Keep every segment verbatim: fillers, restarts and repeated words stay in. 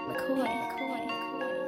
McCoy, McCoy, McCoy.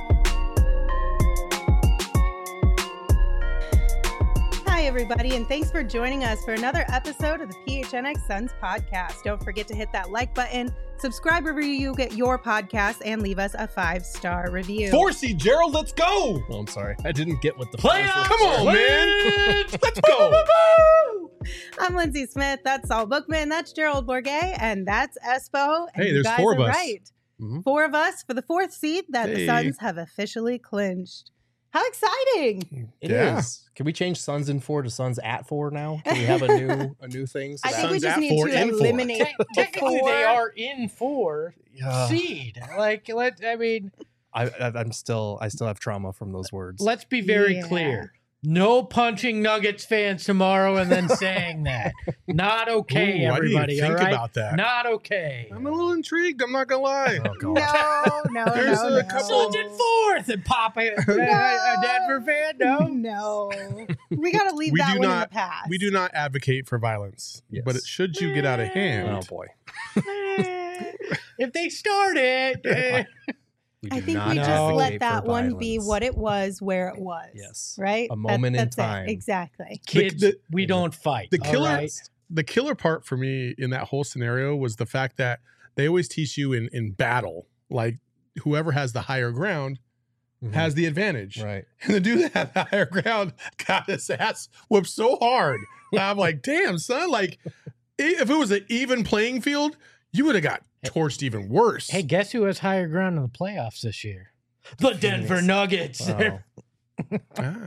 Hi, everybody, and thanks for joining us for another episode of the P H N X Suns podcast. Don't forget to hit that like button, subscribe wherever you get your podcast, and leave us a five-star review. Forsey, Gerald, let's go. Oh, I'm sorry. I didn't get what the Playoffs. Come on, man. Let's go. I'm Lindsay Smith. That's Saul Bookman. That's Gerald Bourget. And that's Espo. And Hey, you there's guys four of are us. Right. Mm-hmm. Four of us for the fourth seed that the Hey. Suns have officially clinched. How exciting! It is. Yeah. Can we change Suns in four to Suns at four now? Can we have a new a new thing? So I that- think we Suns just at need four to and four. eliminate Te- the technically, four. they are in four Yeah. seed. Like, let I mean, I, I, I'm still I still have trauma from those words. let's be very Yeah. clear. No punching Nuggets fans tomorrow and then saying that. Not okay, Ooh, I didn't even everybody. think all right? about that. Not okay. I'm a little intrigued. I'm not gonna lie. Oh god. No, no, There's no, a no. couple- Suns in fourth and Papa, a, a Denver fan. No, No. We got to leave We that do one in the not- past. We do not advocate for violence, Yes. but it, should you get out of hand, Oh boy. if they start it, eh. We I do think not we just advocate let for that one be violence. what it was, where it was. Yes. Right? A moment in that's time. It. Exactly. kids, the- we don't fight. the all killer- right? the killer part for me in that whole scenario was the fact that they always teach you in in battle, like whoever has the higher ground Mhm. has the advantage. Right. And the dude that had the higher ground got his ass whooped so hard. I'm like, damn, son, like if it was an even playing field, you would have got torched even worse. Hey, guess who has higher ground in the playoffs this year? The Denver Phoenix. Nuggets. Wow. Ah.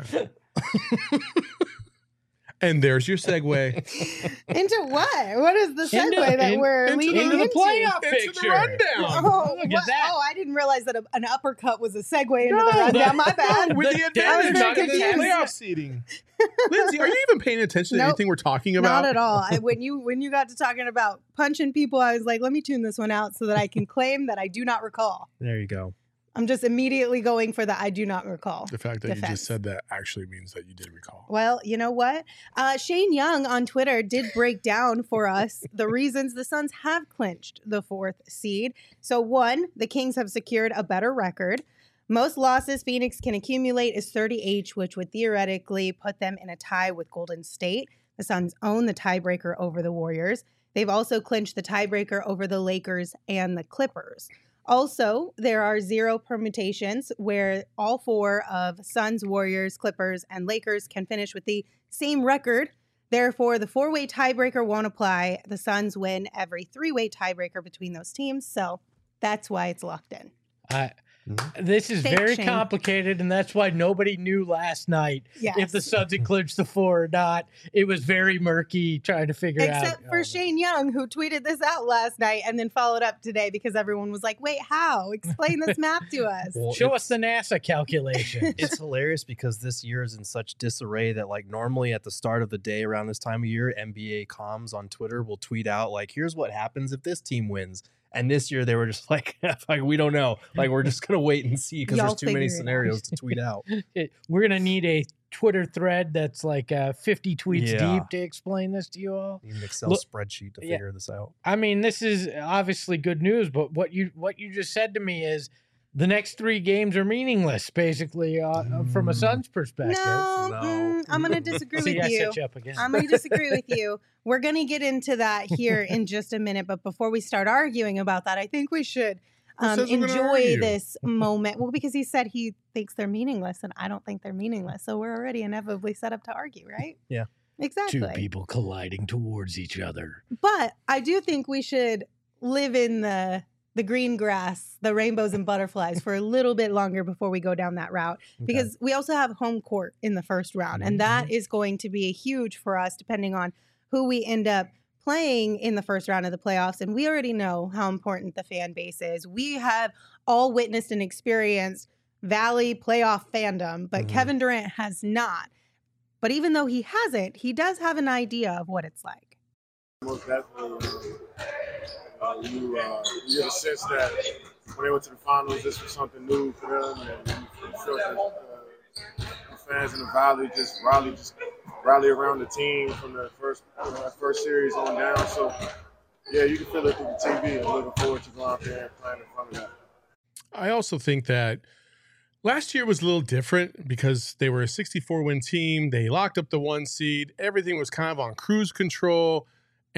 And there's your segue Into what? What is the segue Into- that in- we're into leading Into the into? playoff into picture. the rundown. Oh, Look at what? that. Oh, I didn't realize that a, an uppercut was a segue into No, the rundown. that- My bad. With The the Denver advantage Nuggets of the has- playoff seeding. Lindsay, are you even paying attention to Nope. anything we're talking about? Not at all. I, when you when you got to talking about punching people, I was like, let me tune this one out so that I can claim that I do not recall. There you go. I'm just immediately going for the I do not recall. The fact that you Defense. just said that actually means that you did recall. Well, you know what? Uh, Shane Young on Twitter did break down for us the reasons the Suns have clinched the fourth seed. So, one, the Kings have secured a better record. Most losses Phoenix can accumulate is thirty each, which would theoretically put them in a tie with Golden State. The Suns own the tiebreaker over the Warriors. They've also clinched the tiebreaker over the Lakers and the Clippers. Also, there are zero permutations where all four of Suns, Warriors, Clippers, and Lakers can finish with the same record. Therefore, the four-way tiebreaker won't apply. The Suns win every three-way tiebreaker between those teams, so that's why it's locked in. I, Mhm. this is Thanks, very Shane. complicated, and that's why nobody knew last night Yes. if the Suns had clinched the four or not. It was very murky trying to figure out. Except for Oh, Shane Young, who tweeted this out last night and then followed up today because everyone was like, wait, how? Explain this map to us. Well, Show it's- us the NASA calculation. It's hilarious because this year is in such disarray that like normally at the start of the day around this time of year, N B A comms on Twitter will tweet out like, here's what happens if this team wins. And this year they were just like, like we don't know. Like we're just gonna wait and see because Y'all there's too many figure it out. scenarios to tweet out. It- we're gonna need a Twitter thread that's like uh, fifty tweets Yeah. deep to explain this to you all. Need an Excel Look- spreadsheet to Yeah. figure this out. I mean, this is obviously good news, but what you what you just said to me is the next three games are meaningless, basically, uh, uh, from a Mm. Suns perspective. No, No. mm, I'm going to disagree See, with I you. set you up again. I'm going to disagree with you. We're going to get into that here in just a minute. But before we start arguing about that, I think we should Who um, says we're gonna enjoy argue? this moment. Well, because he said he thinks they're meaningless, and I don't think they're meaningless. So we're already inevitably set up to argue, right? Yeah. Exactly. Two people colliding towards each other. But I do think we should live in the the green grass, the rainbows and butterflies for a little bit longer before we go down that route. Because we also have home court in the first round. And that is going to be huge for us depending on who we end up playing in the first round of the playoffs. And we already know how important the fan base is. We have all witnessed and experienced Valley playoff fandom, but Mhm. Kevin Durant has not. But even though he hasn't, he does have an idea of what it's like. Most definitely. Uh, you, uh, you get a sense that when they went to the finals, this was something new for them, and you, you felt that uh, the fans in the Valley just rally, just rally around the team from the first you know, that first series on down. So, yeah, you can feel it through the T V. I'm looking forward to going out there and playing in front of that. I also think that last year was a little different because they were a sixty-four win team. They locked up the one seed. Everything was kind of on cruise control.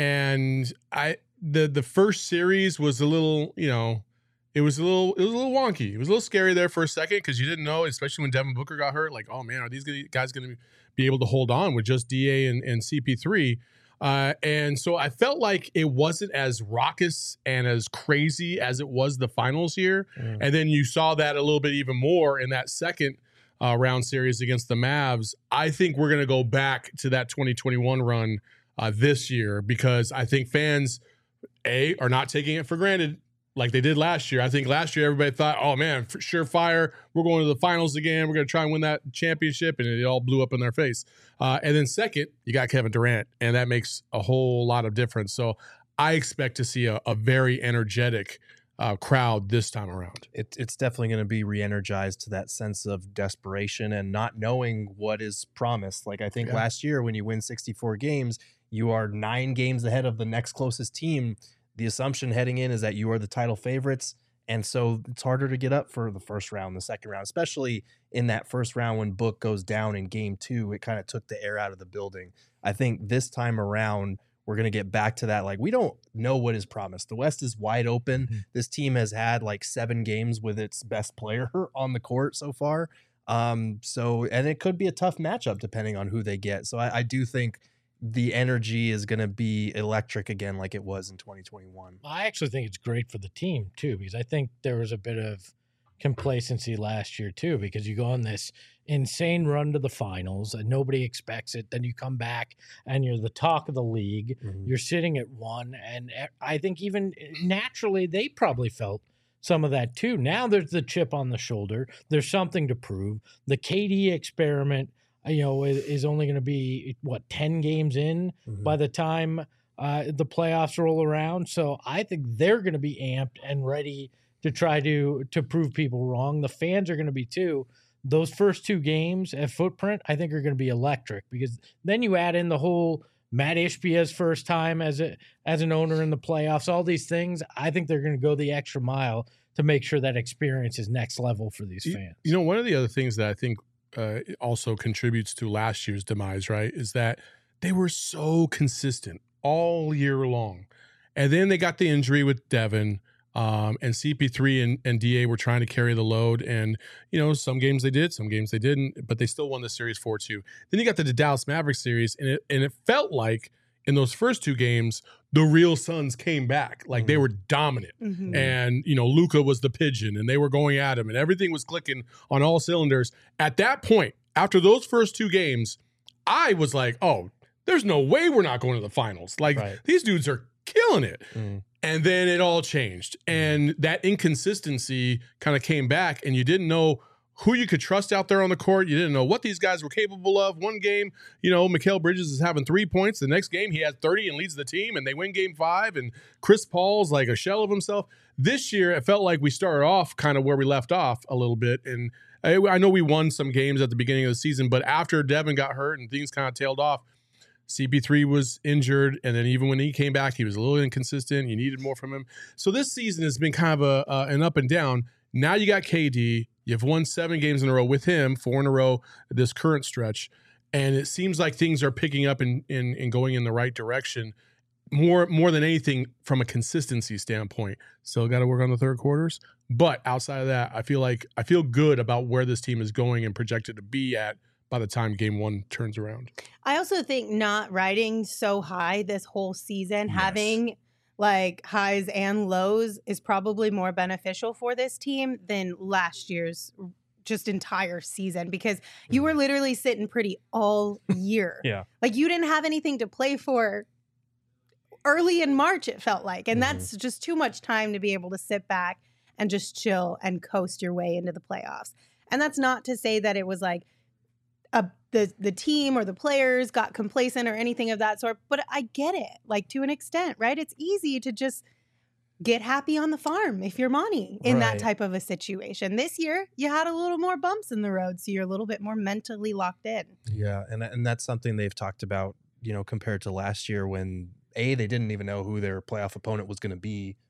And I the the first series was a little, you know, it was a little it was a little wonky. It was a little scary there for a second because you didn't know, especially when Devin Booker got hurt, like, oh man, are these guys going to be able to hold on with just D A and, and C P three? Uh, and so I felt like it wasn't as raucous and as crazy as it was the finals year. Mm. And then you saw that a little bit even more in that second uh, round series against the Mavs. I think we're going to go back to that twenty twenty-one run uh, this year because I think fans, A, are not taking it for granted like they did last year. I think last year everybody thought, oh man, for surefire, we're going to the finals again. We're going to try and win that championship. And it all blew up in their face. Uh, and then second, you got Kevin Durant, and that makes a whole lot of difference. So I expect to see a, a very energetic uh, crowd this time around. It, it's definitely going to be re-energized to that sense of desperation and not knowing what is promised. Like I think yeah. last year when you win sixty-four games, you are nine games ahead of the next closest team. The assumption heading in is that you are the title favorites. And so it's harder to get up for the first round, the second round, especially in that first round when Book goes down in game two. It kind of took the air out of the building. I think this time around, we're going to get back to that. Like, we don't know what is promised. The West is wide open. Mm-hmm. This team has had like seven games with its best player on the court so far. Um, so, and it could be a tough matchup depending on who they get. So I, I do think the energy is going to be electric again like it was in twenty twenty-one. I actually think it's great for the team too, because I think there was a bit of complacency last year too, because you go on this insane run to the finals and nobody expects it. Then you come back and you're the talk of the league. Mm-hmm. You're sitting at one. And I think even naturally they probably felt some of that too. Now there's the chip on the shoulder. There's something to prove. The K D experiment, you know, is only going to be, what, ten games in mm-hmm. by the time uh, the playoffs roll around. So I think they're going to be amped and ready to try to to prove people wrong. The fans are going to be too. Those first two games at Footprint, I think, are going to be electric because then you add in the whole Matt Ishbia's first time as a as an owner in the playoffs, all these things. I think they're going to go the extra mile to make sure that experience is next level for these fans. You know, one of the other things that I think Uh, also contributes to last year's demise, right, is that they were so consistent all year long. And then they got the injury with Devin, um, and C P three and, and D A were trying to carry the load. And, you know, some games they did, some games they didn't, but they still won the series four two. Then you got the Dallas Mavericks series, and it, and it felt like in those first two games, the real Suns came back. Like mm-hmm. they were dominant. Mm-hmm. And, you know, Luka was the pigeon and they were going at him and everything was clicking on all cylinders. At that point, after those first two games, I was like, oh, there's no way we're not going to the finals. Like right. these dudes are killing it. Mm-hmm. And then it all changed. And that inconsistency kind of came back and you didn't know who you could trust out there on the court. You didn't know what these guys were capable of. One game, you know, Mikal Bridges is having three points. The next game, he has thirty and leads the team, and they win game five, and Chris Paul's like a shell of himself. This year, it felt like we started off kind of where we left off a little bit, and I, I know we won some games at the beginning of the season, but after Devin got hurt and things kind of tailed off, C P three was injured, and then even when he came back, he was a little inconsistent. You needed more from him. So this season has been kind of a uh, an up and down. Now you got K D. You've won seven games in a row with him, four in a row this current stretch, and it seems like things are picking up and in, in, in going in the right direction. More more than anything from a consistency standpoint. Still got to work on the third quarters, but outside of that, I feel like I feel good about where this team is going and projected to be at by the time game one turns around. I also think not riding so high this whole season, Yes. having like highs and lows is probably more beneficial for this team than last year's just entire season because you were literally sitting pretty all year. Yeah. Like you didn't have anything to play for early in March, it felt like. And Mm-hmm. that's just too much time to be able to sit back and just chill and coast your way into the playoffs. And that's not to say that it was like a the the team or the players got complacent or anything of that sort, but I get it, like to an extent, right? It's easy to just get happy on the farm if you're Monty in that Right. type of a situation. This year, you had a little more bumps in the road, so you're a little bit more mentally locked in. Yeah, and and that's something they've talked about, you know, compared to last year when A, they didn't even know who their playoff opponent was going to be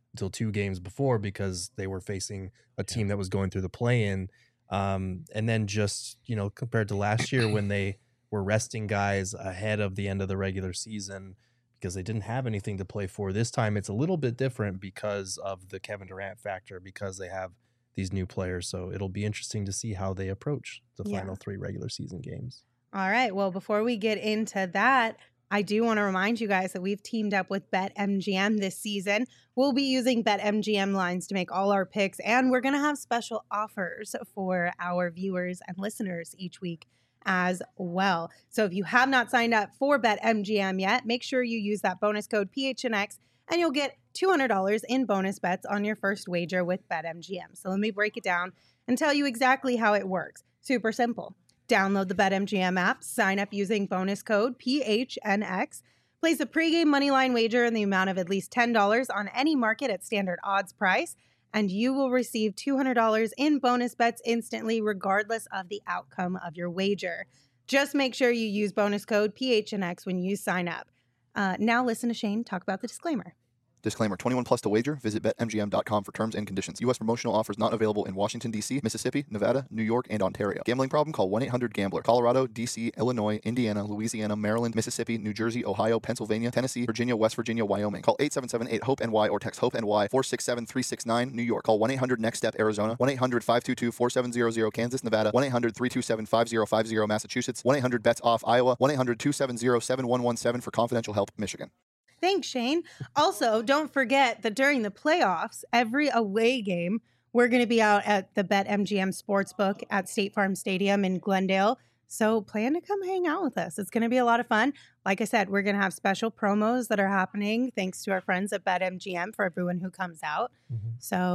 until two games before because they were facing a team that was going through the play-in. Um, and then just, you know, compared to last year when they were resting guys ahead of the end of the regular season because they didn't have anything to play for. This time it's a little bit different because of the Kevin Durant factor, because they have these new players. So it'll be interesting to see how they approach the Yeah. final three regular season games. All right. Well, before we get into that, I do want to remind you guys that we've teamed up with BetMGM this season. We'll be using BetMGM lines to make all our picks, and we're going to have special offers for our viewers and listeners each week as well. So if you have not signed up for BetMGM yet, make sure you use that bonus code P H N X, and you'll get two hundred dollars in bonus bets on your first wager with BetMGM. So let me break it down and tell you exactly how it works. Super simple. Download the BetMGM app, sign up using bonus code P H N X, place a pregame moneyline wager in the amount of at least ten dollars on any market at standard odds price, and you will receive two hundred dollars in bonus bets instantly, regardless of the outcome of your wager. Just make sure you use bonus code P H N X when you sign up. Uh, now listen to Shane talk about the disclaimer. Disclaimer, twenty-one plus to wager. Visit Bet M G M dot com for terms and conditions. U S promotional offers not available in Washington, D C, Mississippi, Nevada, New York, and Ontario. Gambling problem? Call one eight hundred gambler. Colorado, D C, Illinois, Indiana, Louisiana, Maryland, Mississippi, New Jersey, Ohio, Pennsylvania, Tennessee, Virginia, West Virginia, Wyoming. Call eight seven seven eight hope N Y or text HOPE-N Y four six seven three six nine, New York. Call one eight hundred next step Arizona, one eight hundred five two two four seven zero zero, Kansas, Nevada, one eight hundred three two seven five zero five zero, Massachusetts, one eight hundred bets off Iowa, one eight hundred two seven zero seven one one seven for confidential help, Michigan. Thanks, Shane. Also, don't forget that during the playoffs, every away game, we're going to be out at the BetMGM Sportsbook at State Farm Stadium in Glendale. So plan to come hang out with us. It's going to be a lot of fun. Like I said, we're going to have special promos that are happening thanks to our friends at BetMGM for everyone who comes out. Mm-hmm.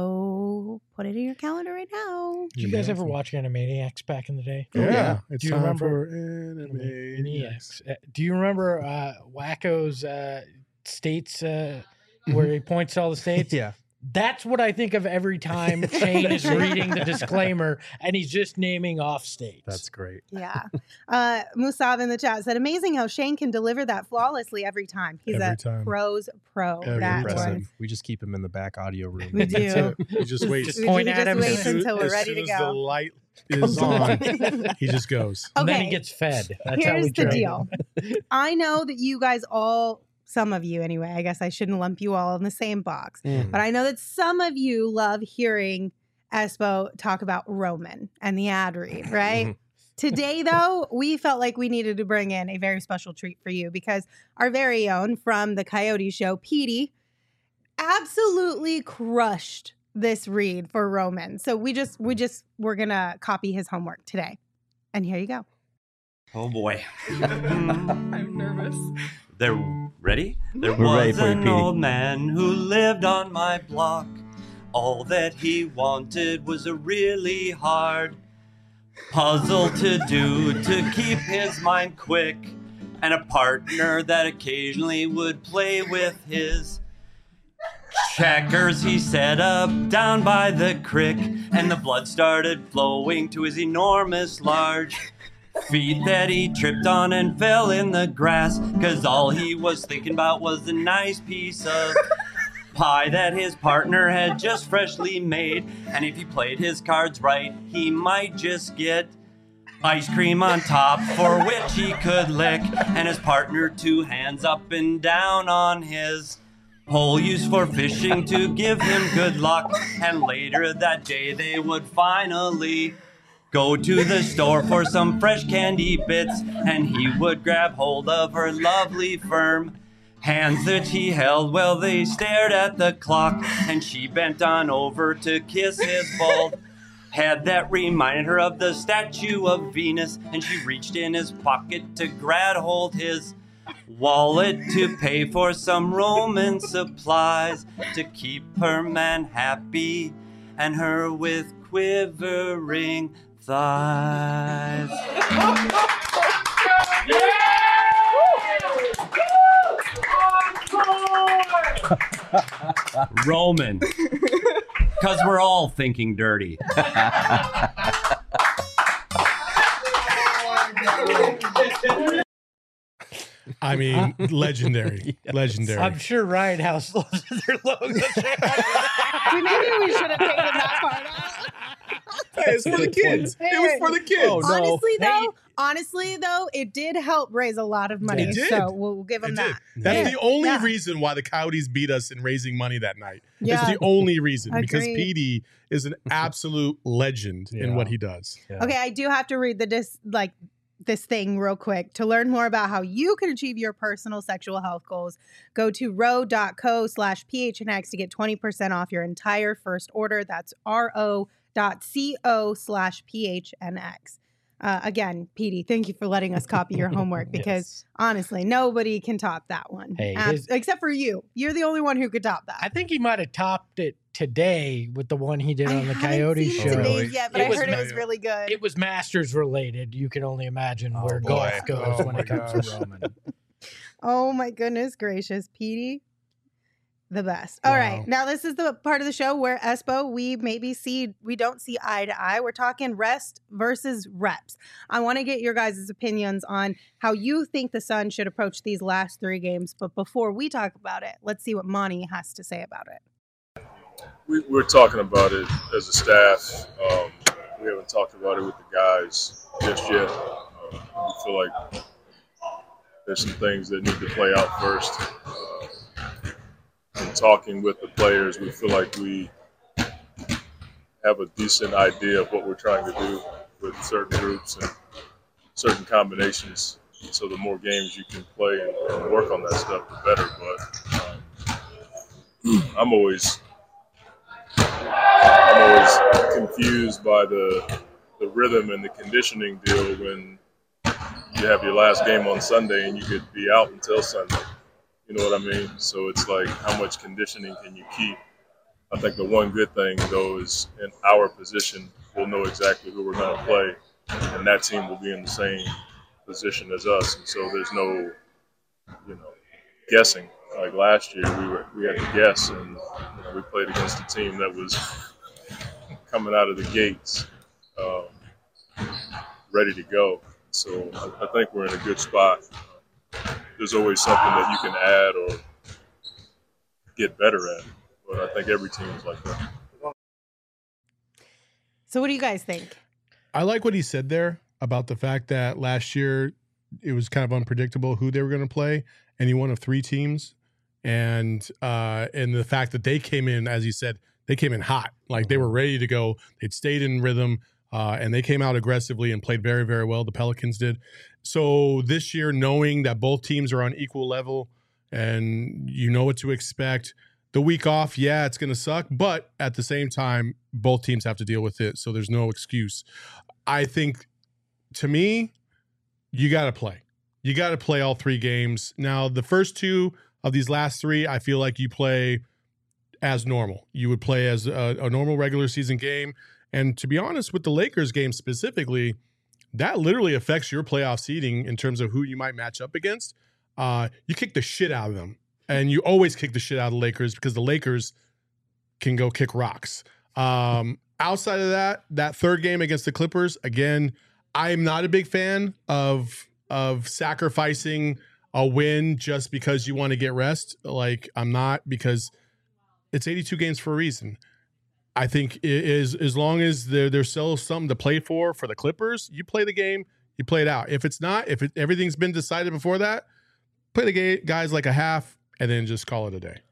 So put it in your calendar right now. Did you guys ever watch Animaniacs back in the day? Yeah, yeah. it's Do you time remember- for Animaniacs. Uh, Do you remember uh, Wacko's uh, states uh, where he points to all the states? Yeah. That's what I think of every time Shane is reading the disclaimer and he's just naming off states. That's great. Yeah. Uh, Musab in the chat said, amazing how Shane can deliver that flawlessly every time. He's Every a time. pro's pro. Every that time. one. Impressive. We just keep him in the back audio room. We do. That's it. You just wait. Just We point just at him. wait and- until we're as ready soon to as the go. light is on, he just goes. and then he Okay. gets fed. That's how Here's we the train deal. him. I know that you guys all, some of you anyway, I guess I shouldn't lump you all in the same box, Mm. but I know that some of you love hearing Espo talk about Roman and the ad read, right? Today, though, we felt like we needed to bring in a very special treat for you because our very own from the Coyote Show, Petey, absolutely crushed this read for Roman. So we just, we just, we're gonna copy his homework today. And here you go. Oh boy. I'm nervous. There, ready? There We're ready was for you, an Petey. old man who lived on my block. All that he wanted was a really hard puzzle to do to keep his mind quick, and a partner that occasionally would play with his checkers. He set up down by the creek, and the blood started flowing to his enormous large feet that he tripped on and fell in the grass, 'cause all he was thinking about was the nice piece of pie that his partner had just freshly made. And if he played his cards right, he might just get ice cream on top, for which he could lick, and his partner two hands up and down on his pole used for fishing to give him good luck. And later that day they would finally go to the store for some fresh candy bits, and he would grab hold of her lovely firm hands that he held while they stared at the clock, and she bent on over to kiss his bald head that reminded her of the statue of Venus, and she reached in his pocket to grab hold his wallet to pay for some Roman supplies to keep her man happy and her with quivering thighs. Roman. Because we're all thinking dirty. I mean, legendary, Yes. legendary. I'm sure Ryan House loves their logo. See, maybe we should have taken that part out. Hey, it's for the kids. It was for the kids. Oh, no. Honestly, Hey, though, honestly though, it did help raise a lot of money. It did. So we'll, we'll give It them did. that. That's Yeah. the only Yeah. reason why the Coyotes beat us in raising money that night. Yeah. It's the only reason because Agreed. P D is an absolute legend in Yeah. what he does. Yeah. Okay, I do have to read the dis like this thing real quick. To learn more about how you can achieve your personal sexual health goals, go to ro.co slash phnx to get twenty percent off your entire first order. That's ro.co slash phnx. Uh, again, Petey, thank you for letting us copy your homework because Yes. honestly, nobody can top that one. Hey, Abs- his- except for you. You're the only one who could top that. I think he might have topped it today with the one he did I on the haven't Coyote seen show. today's Really? yet, but It I was heard it ma- was really good. It was Masters related. You can only imagine Oh, where boy. golf goes Oh, when my it comes gosh. to Roman. Oh my goodness gracious, Petey. The best. All right. Wow. Now this is the part of the show where Espo, we maybe see we don't see eye to eye. We're talking rest versus reps. I want to get your guys' opinions on how you think the Suns should approach these last three games. But before we talk about it, let's see what Monty has to say about it. We, we're talking about it as a staff. Um, we haven't talked about it with the guys just yet. Uh, we feel like there's some things that need to play out first. Uh, in talking with the players, we feel like we have a decent idea of what we're trying to do with certain groups and certain combinations. So the more games you can play and, and work on that stuff, the better. But um, I'm always I'm always confused by the the rhythm and the conditioning deal when you have your last game on Sunday and you could be out until Sunday. You know what I mean? So it's like, how much conditioning can you keep? I think the one good thing, though, is in our position, we'll know exactly who we're going to play, and that team will be in the same position as us. And so there's no, you know, guessing. Like last year, we were we had to guess, and you know, we played against a team that was coming out of the gates, um, ready to go. So I, I think we're in a good spot. There's always something that you can add or get better at, but I think every team is like that. So what do you guys think? I like what he said there about the fact that last year it was kind of unpredictable who they were going to play, and he won of three teams, and uh, and the fact that they came in, as he said, they came in hot, like they were ready to go. They'd stayed in rhythm, uh, and they came out aggressively and played very, very well. The Pelicans did. So this year, knowing that both teams are on equal level and you know what to expect, the week off, yeah, it's going to suck, but at the same time, both teams have to deal with it, so there's no excuse. I think, to me, you got to play. You got to play all three games. Now, the first two of these last three, I feel like you play as normal. You would play as a, a normal regular season game. And to be honest, with the Lakers game specifically, that literally affects your playoff seeding in terms of who you might match up against. Uh, you kick the shit out of them. And you always kick the shit out of the Lakers because the Lakers can go kick rocks. Um, outside of that, that third game against the Clippers, again, I'm not a big fan of of sacrificing a win just because you want to get rest. Like, I'm not, because it's eighty-two games for a reason. I think it is, as long as there, there's still something to play for for the Clippers, you play the game, you play it out. If it's not, if it, everything's been decided before that, play the ga- guys like a half and then just call it a day.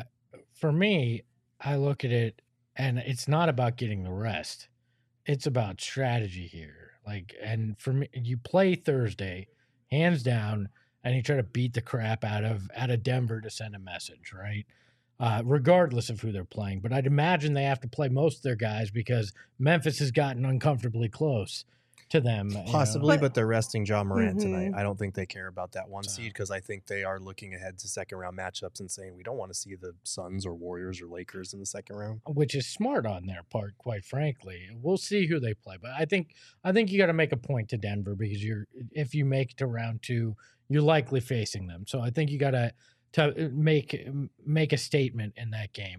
For me, I look at it and it's not about getting the rest. It's about strategy here. Like, and for me, you play Thursday, hands down, and you try to beat the crap out of out of Denver to send a message, right? Uh, regardless of who they're playing. But I'd imagine they have to play most of their guys because Memphis has gotten uncomfortably close to them. you know. Possibly, But- but, they're resting John Morant Mhm. tonight. I don't think they care about that one So- seed because I think they are looking ahead to second round matchups and saying we don't want to see the Suns or Warriors or Lakers in the second round. Which is smart on their part, quite frankly. We'll see who they play, but I think I think you got to make a point to Denver because you're if you make it to round two, you're likely facing them. So I think you got to to make make a statement in that game.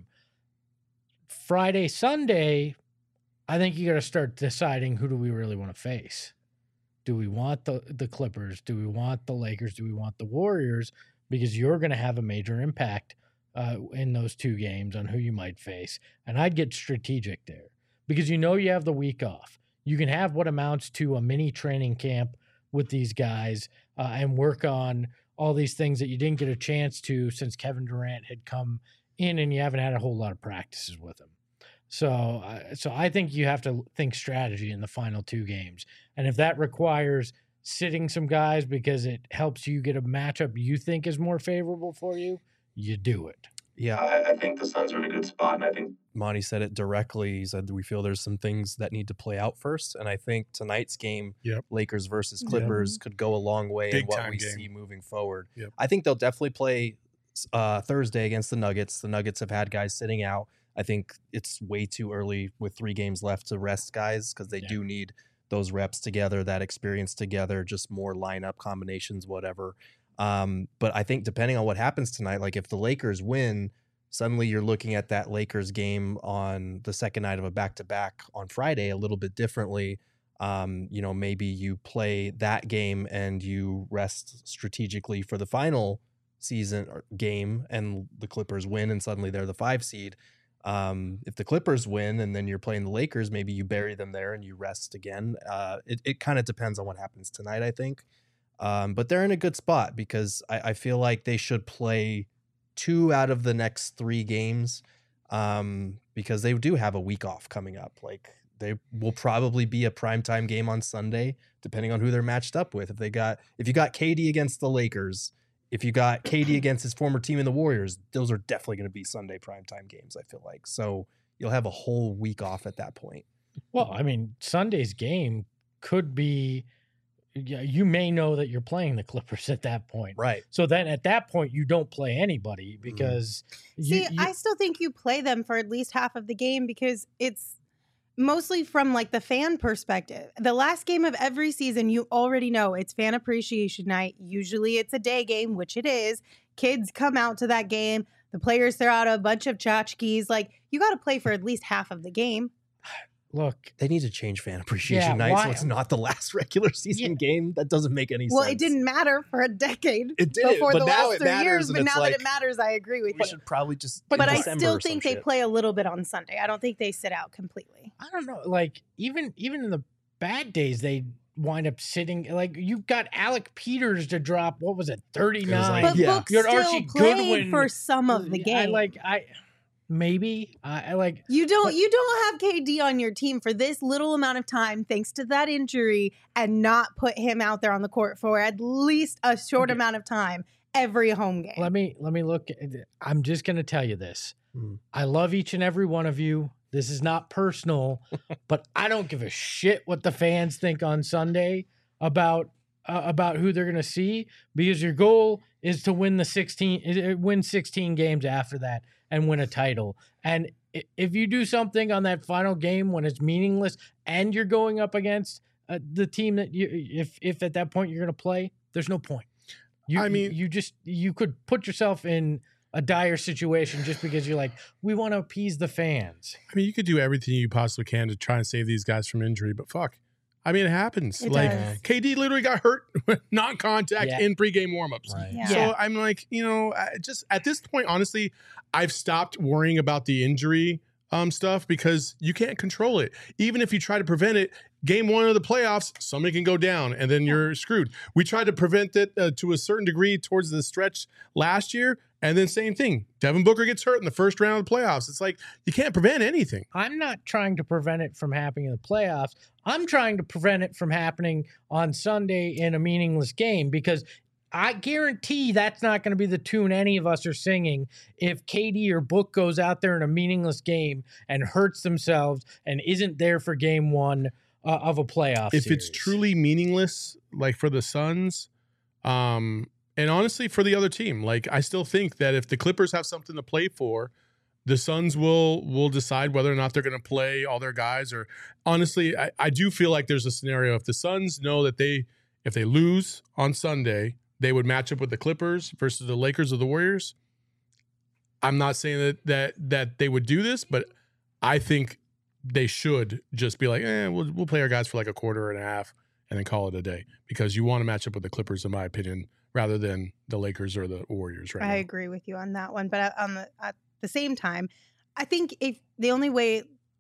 Friday, Sunday, I think you got to start deciding who do we really want to face. Do we want the, the Clippers? Do we want the Lakers? Do we want the Warriors? Because you're going to have a major impact uh, in those two games on who you might face. And I'd get strategic there because you know you have the week off. You can have what amounts to a mini training camp with these guys uh, and work on all these things that you didn't get a chance to since Kevin Durant had come in and you haven't had a whole lot of practices with him. So, uh, so I think you have to think strategy in the final two games. And if that requires sitting some guys because it helps you get a matchup you think is more favorable for you, you do it. Yeah, I, I think the Suns are in a good spot, and I think Monty said it directly. He said we feel there's some things that need to play out first, and I think tonight's game, Yep. Lakers versus Clippers, Yep. could go a long way Big in what time we game. see moving forward. Yep. I think they'll definitely play uh, Thursday against the Nuggets. The Nuggets have had guys sitting out. I think it's way too early with three games left to rest guys because they Yeah. do need those reps together, that experience together, just more lineup combinations, whatever. Um, but I think depending on what happens tonight, like if the Lakers win, suddenly you're looking at that Lakers game on the second night of a back-to-back on Friday a little bit differently. Um, you know, maybe you play that game and you rest strategically for the final season or game and the Clippers win and suddenly they're the five seed. Um, if the Clippers win and then you're playing the Lakers, maybe you bury them there and you rest again. Uh, it it kind of depends on what happens tonight, I think. Um, but they're in a good spot because I, I feel like they should play two out of the next three games um, because they do have a week off coming up. Like they will probably be a primetime game on Sunday, depending on who they're matched up with. If they got, if you got K D against the Lakers, if you got K D against his former team in the Warriors, those are definitely going to be Sunday primetime games, I feel like. So you'll have a whole week off at that point. Well, I mean, Sunday's game could be, yeah, you may know that you're playing the Clippers at that point. Right. So then at that point, you don't play anybody because you, See, you- I still think you play them for at least half of the game because it's mostly from like the fan perspective. The last game of every season, you already know it's fan appreciation night. Usually it's a day game, which it is. Kids come out to that game. The players throw out a bunch of tchotchkes. Like, you got to play for at least half of the game. look, They need to change fan appreciation Yeah, night why- so it's not the last regular season game. That doesn't make any Well, sense. it didn't matter for a decade It did, before but the now last it three matters, years. and But it's now like, that it matters, I agree with we you. should probably just. But in I December still or think some they shit. play a little bit on Sunday. I don't think they sit out completely. I don't know. Like even even in the bad days, they wind up sitting. Like you got Alec Peters to drop. What was it, thirty nine? But Yeah. Book You had still Archie played Goodwin. for some of the game. I like I maybe I, I like. You don't But- you don't have K D on your team for this little amount of time thanks to that injury and not put him out there on the court for at least a short Okay. amount of time every home game. Let me let me look. At, I'm just gonna tell you this. Mm. I love each and every one of you. This is not personal, but I don't give a shit what the fans think on Sunday about uh, about who they're gonna see because your goal is to win the sixteen, uh, win sixteen games after that and win a title. And i- if you do something on that final game when it's meaningless and you're going up against uh, the team that you, if if at that point you're gonna play, there's no point. You, I mean- you, you just you could put yourself in a dire situation just because you're like, we want to appease the fans. I mean, you could do everything you possibly can to try and save these guys from injury, but fuck. I mean, it happens. It like does. K D literally got hurt non-contact Yeah. in pregame warmups. Right. Yeah. So Yeah. I'm like, you know, I just at this point, honestly, I've stopped worrying about the injury um, stuff because you can't control it. Even if you try to prevent it, game one of the playoffs, somebody can go down and then you're screwed. We tried to prevent it uh, to a certain degree towards the stretch last year. And then same thing. Devin Booker gets hurt in the first round of the playoffs. It's like you can't prevent anything. I'm not trying to prevent it from happening in the playoffs. I'm trying to prevent it from happening on Sunday in a meaningless game because I guarantee that's not going to be the tune any of us are singing if K D or Book goes out there in a meaningless game and hurts themselves and isn't there for game one uh, of a playoff If series. it's truly meaningless, like for the Suns, um, and honestly for the other team, like I still think that if the Clippers have something to play for, the Suns will will decide whether or not they're going to play all their guys. Or honestly, I, I do feel like there's a scenario if the Suns know that they if they lose on Sunday, they would match up with the Clippers versus the Lakers or the Warriors. I'm not saying that that that they would do this, but I think they should just be like, eh, we'll we'll play our guys for like a quarter and a half and then call it a day, because you want to match up with the Clippers, in my opinion, rather than the Lakers or the Warriors right I now. agree with you on that one. But at, on the, at the same time, I think if the only way,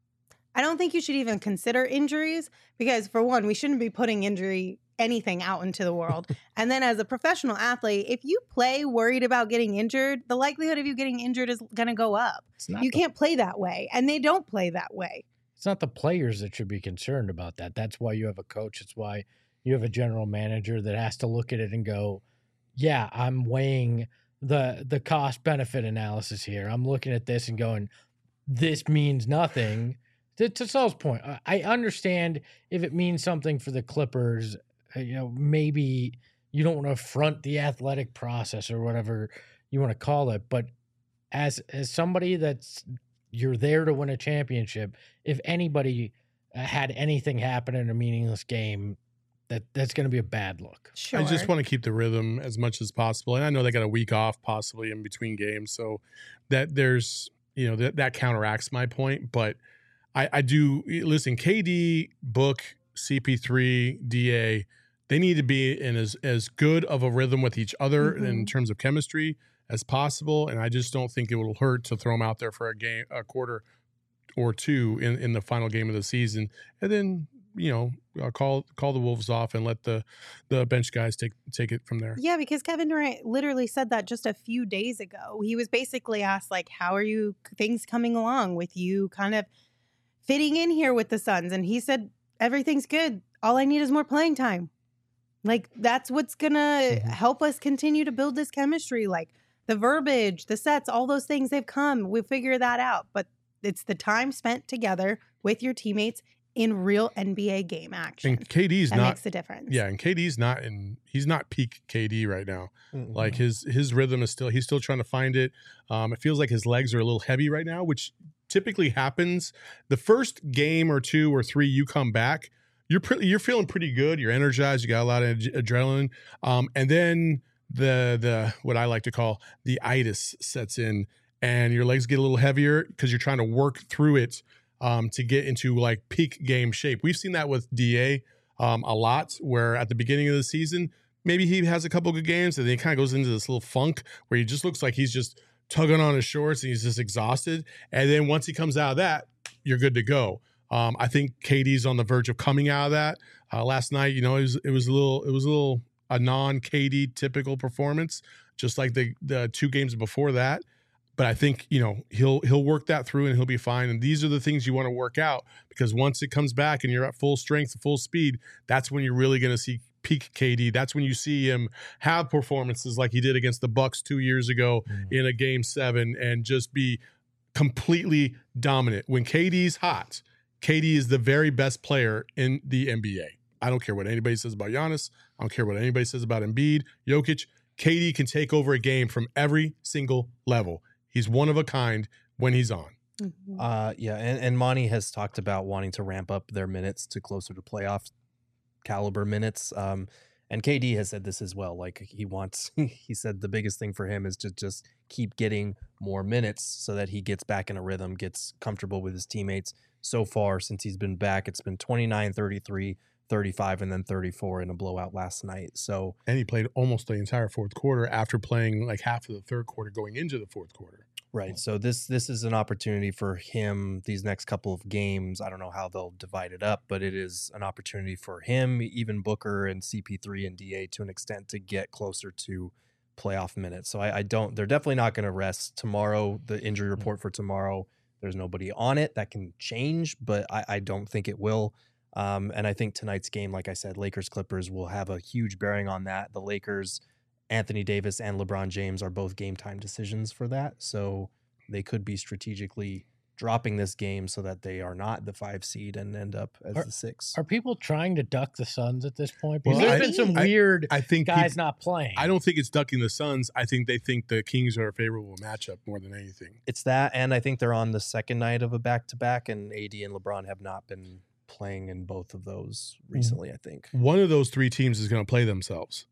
I don't think you should even consider injuries, because for one, we shouldn't be putting injury anything out into the world. And then as a professional athlete, if you play worried about getting injured, the likelihood of you getting injured is going to go up. It's not You the- can't play that way. And they don't play that way. It's not the players that should be concerned about that. That's why you have a coach. It's why you have a general manager that has to look at it and go, yeah, I'm weighing the the cost benefit analysis here. I'm looking at this and going, this means nothing. To, to Saul's point, I- I understand if it means something for the Clippers, uh, you know, maybe you don't want to affront the athletic process or whatever you want to call it. But as as somebody that's you're there to win a championship, if anybody uh, had anything happen in a meaningless game, that that's going to be a bad look. Sure. I just want to keep the rhythm as much as possible. And I know they got a week off possibly in between games. So that there's, you know, that, that counteracts my point. But I, I do, listen, K D, Book, C P three, D A, they need to be in as, as good of a rhythm with each other Mhm. in terms of chemistry as possible. And I just don't think it will hurt to throw them out there for a game, a quarter or two in, in the final game of the season. And then, you know, uh, call call the Wolves off and let the the bench guys take take it from there. Yeah, because Kevin Durant literally said that just a few days ago. He was basically asked, like, how are you things coming along with you kind of fitting in here with the Suns? And he said, everything's good. All I need is more playing time. Like, that's what's going to Mhm. help us continue to build this chemistry. Like, the verbiage, the sets, all those things, they've come. We'll figure that out. But it's the time spent together with your teammates in real N B A game action. And K D's that not makes a difference. yeah, and K D's not in he's not peak K D right now. Mm-mm. Like his his rhythm is still he's still trying to find it. Um, it feels like his legs are a little heavy right now, which typically happens the first game or two or three you come back. You're pretty you're feeling pretty good. You're energized. You got a lot of ad- adrenaline. Um, and then the the what I like to call the itis sets in, and your legs get a little heavier because you're trying to work through it um, to get into like peak game shape. We've seen that with D A um, a lot, where at the beginning of the season, maybe he has a couple good games and then he kind of goes into this little funk where he just looks like he's just tugging on his shorts and he's just exhausted. And then once he comes out of that, you're good to go. Um, I think K D's on the verge of coming out of that. Uh, last night, you know, it was it was a little it was a little a non-K D typical performance, just like the the two games before that. But I think, you know, he'll he'll work that through and he'll be fine. And these are the things you want to work out, because once it comes back and you're at full strength, full speed, that's when you're really going to see peak K D. That's when you see him have performances like he did against the Bucks two years ago Mm. in a game seven and just be completely dominant. When K D's hot, K D is the very best player in the N B A. I don't care what anybody says about Giannis. I don't care what anybody says about Embiid, Jokic. K D can take over a game from every single level. He's one of a kind when he's on. Mhm. Uh, yeah, and, and Monty has talked about wanting to ramp up their minutes to closer to playoff caliber minutes. Um, and K D has said this as well. Like he wants, he said the biggest thing for him is to just keep getting more minutes so that he gets back in a rhythm, gets comfortable with his teammates. So far, since he's been back, it's been twenty-nine, thirty-three, thirty-five, and then thirty-four in a blowout last night. So And he played almost the entire fourth quarter after playing like half of the third quarter going into the fourth quarter. Right. So this this is an opportunity for him these next couple of games. I don't know how they'll divide it up, but it is an opportunity for him, even Booker and C P three and D A to an extent, to get closer to playoff minutes. So I, I don't they're definitely not going to rest tomorrow. The injury report for tomorrow, there's nobody on it. That can change, but I, I don't think it will. Um, and I think tonight's game, like I said, Lakers Clippers will have a huge bearing on that. The Lakers, Anthony Davis and LeBron James are both game time decisions for that. So they could be strategically dropping this game so that they are not the five seed and end up as Are- the six. Are people trying to duck the Suns at this point? Because Well, there's I- been some I- weird I think guys people- not playing. I don't think it's ducking the Suns. I think they think the Kings are a favorable matchup more than anything. It's that, and I think they're on the second night of a back to back, and A D and LeBron have not been playing in both of those recently, I think. One of those three teams is going to play themselves,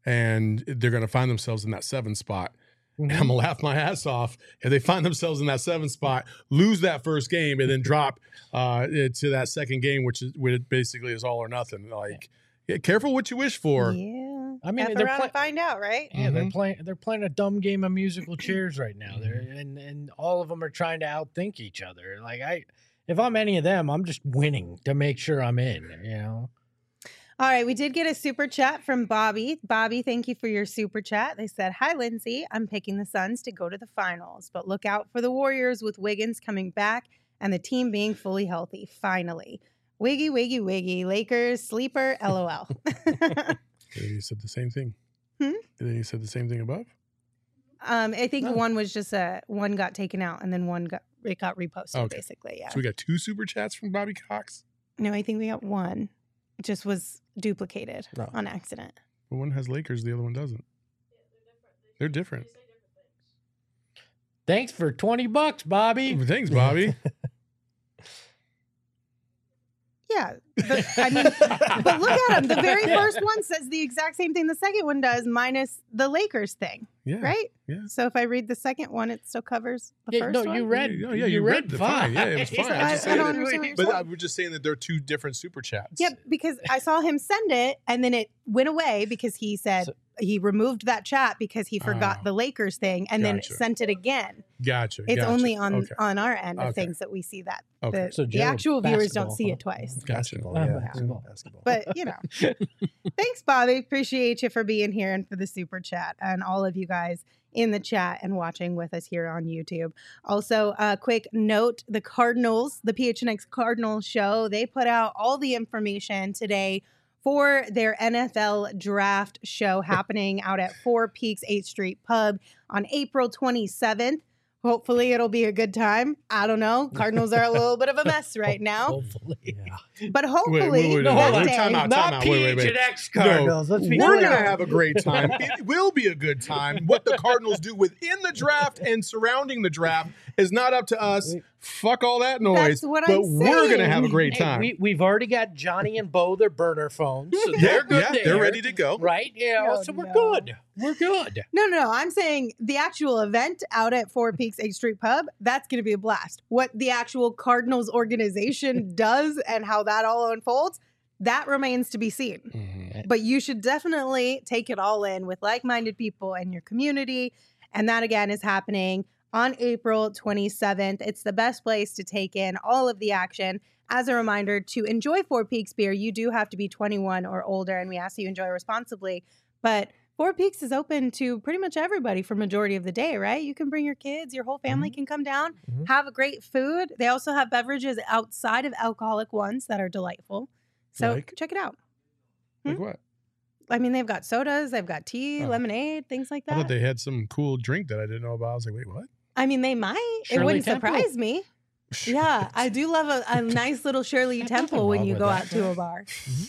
and they're going to find themselves in that seven spot. And I'm gonna laugh my ass off if they find themselves in that seven spot, lose that first game, and then drop uh, to that second game, which is which basically is all or nothing. Like, Yeah, careful what you wish for. Yeah. I mean, F they're around play- and find out, right? Yeah, they're Mhm. playing. They're playing a dumb game of musical chairs right now. They're and and all of them are trying to outthink each other. Like I, if I'm any of them, I'm just winning to make sure I'm in. You know. All right, we did get a super chat from Bobby. Bobby, thank you for your super chat. They said, "Hi, Lindsay. I'm picking the Suns to go to the finals, but look out for the Warriors with Wiggins coming back and the team being fully healthy. Finally, wiggy, wiggy, wiggy. Lakers sleeper. LOL." You said the same thing. Hmm? And then you said the same thing above. um, I think No. one was just a one got taken out and then one got it got reposted. Okay. Basically, yeah. So we got two super chats from Bobby Cox. No, I think we got one. It just was duplicated No. on accident. Well, one has Lakers, the other one doesn't. They're different. Thanks for twenty bucks, Bobby. Thanks, Bobby. Yeah, but, I mean, but look at them. The very first one says the exact same thing the second one does, minus the Lakers thing, Yeah. right? Yeah. So if I read the second one, it still covers the Yeah, first no, one. you read. Oh, yeah, you, you read, read the fine. fine. Yeah, it was fine. I- just I saying don't that- understand what you're But saying. I was just saying that they're two different super chats. Yep, because I saw him send it, and then it went away because he said So- he removed that chat because he forgot Oh. the Lakers thing, and then Gotcha. sent it again. Gotcha. It's gotcha. only on Okay. on our end of Okay. things that we see that. Okay. The, So the Joe, actual viewers don't basketball, see huh? it twice. Gotcha. Basketball, Uh, yeah. basketball. Basketball. But you know, thanks, Bobby. Appreciate you for being here and for the super chat, and all of you guys in the chat and watching with us here on YouTube. Also, a quick note: the Cardinals, the P H N X Cardinals show, they put out all the information today for their N F L draft show happening out at Four Peaks eighth Street Pub on April twenty-seventh. Hopefully it'll be a good time. I don't know. Cardinals are a little bit of a mess right now. Hopefully. Yeah. But hopefully Wait, wait, wait, No, wait, hold that on. day- Time out, time Not out. Wait, wait, P H wait. and X Cardinals. Let's be We're clear. going to have a great time. It will be a good time. What the Cardinals do within the draft and surrounding the draft is not up to us. Fuck all that noise. That's what but I'm we're going to saying. have a great Hey, time. we, we've already got Johnny and Bo, their burner phones. So yeah, they're good yeah, there. they're ready to go. Right? Yeah. Oh, so we're no. good. We're good. No, no, no. I'm saying the actual event out at Four Peaks eighth Street Pub, that's going to be a blast. What the actual Cardinals organization does and how that all unfolds, that remains to be seen. Mhm. But you should definitely take it all in with like-minded people in your community. And that, again, is happening on April twenty-seventh. It's the best place to take in all of the action. As a reminder, to enjoy Four Peaks beer, you do have to be twenty-one or older, and we ask that you enjoy responsibly. But Four Peaks is open to pretty much everybody for majority of the day, right? You can bring your kids, your whole family can come down, Mhm. have a great food. They also have beverages outside of alcoholic ones that are delightful. So Like? check it out. Like Hmm? what? I mean, they've got sodas, they've got tea, Oh. lemonade, things like I thought that. they had some cool drink that I didn't know about. I was like, wait, what? I mean, they might. Shirley it wouldn't Temple? surprise me. Yeah, I do love a, a nice little Shirley There's Temple nothing when wrong you with go that. out to a bar.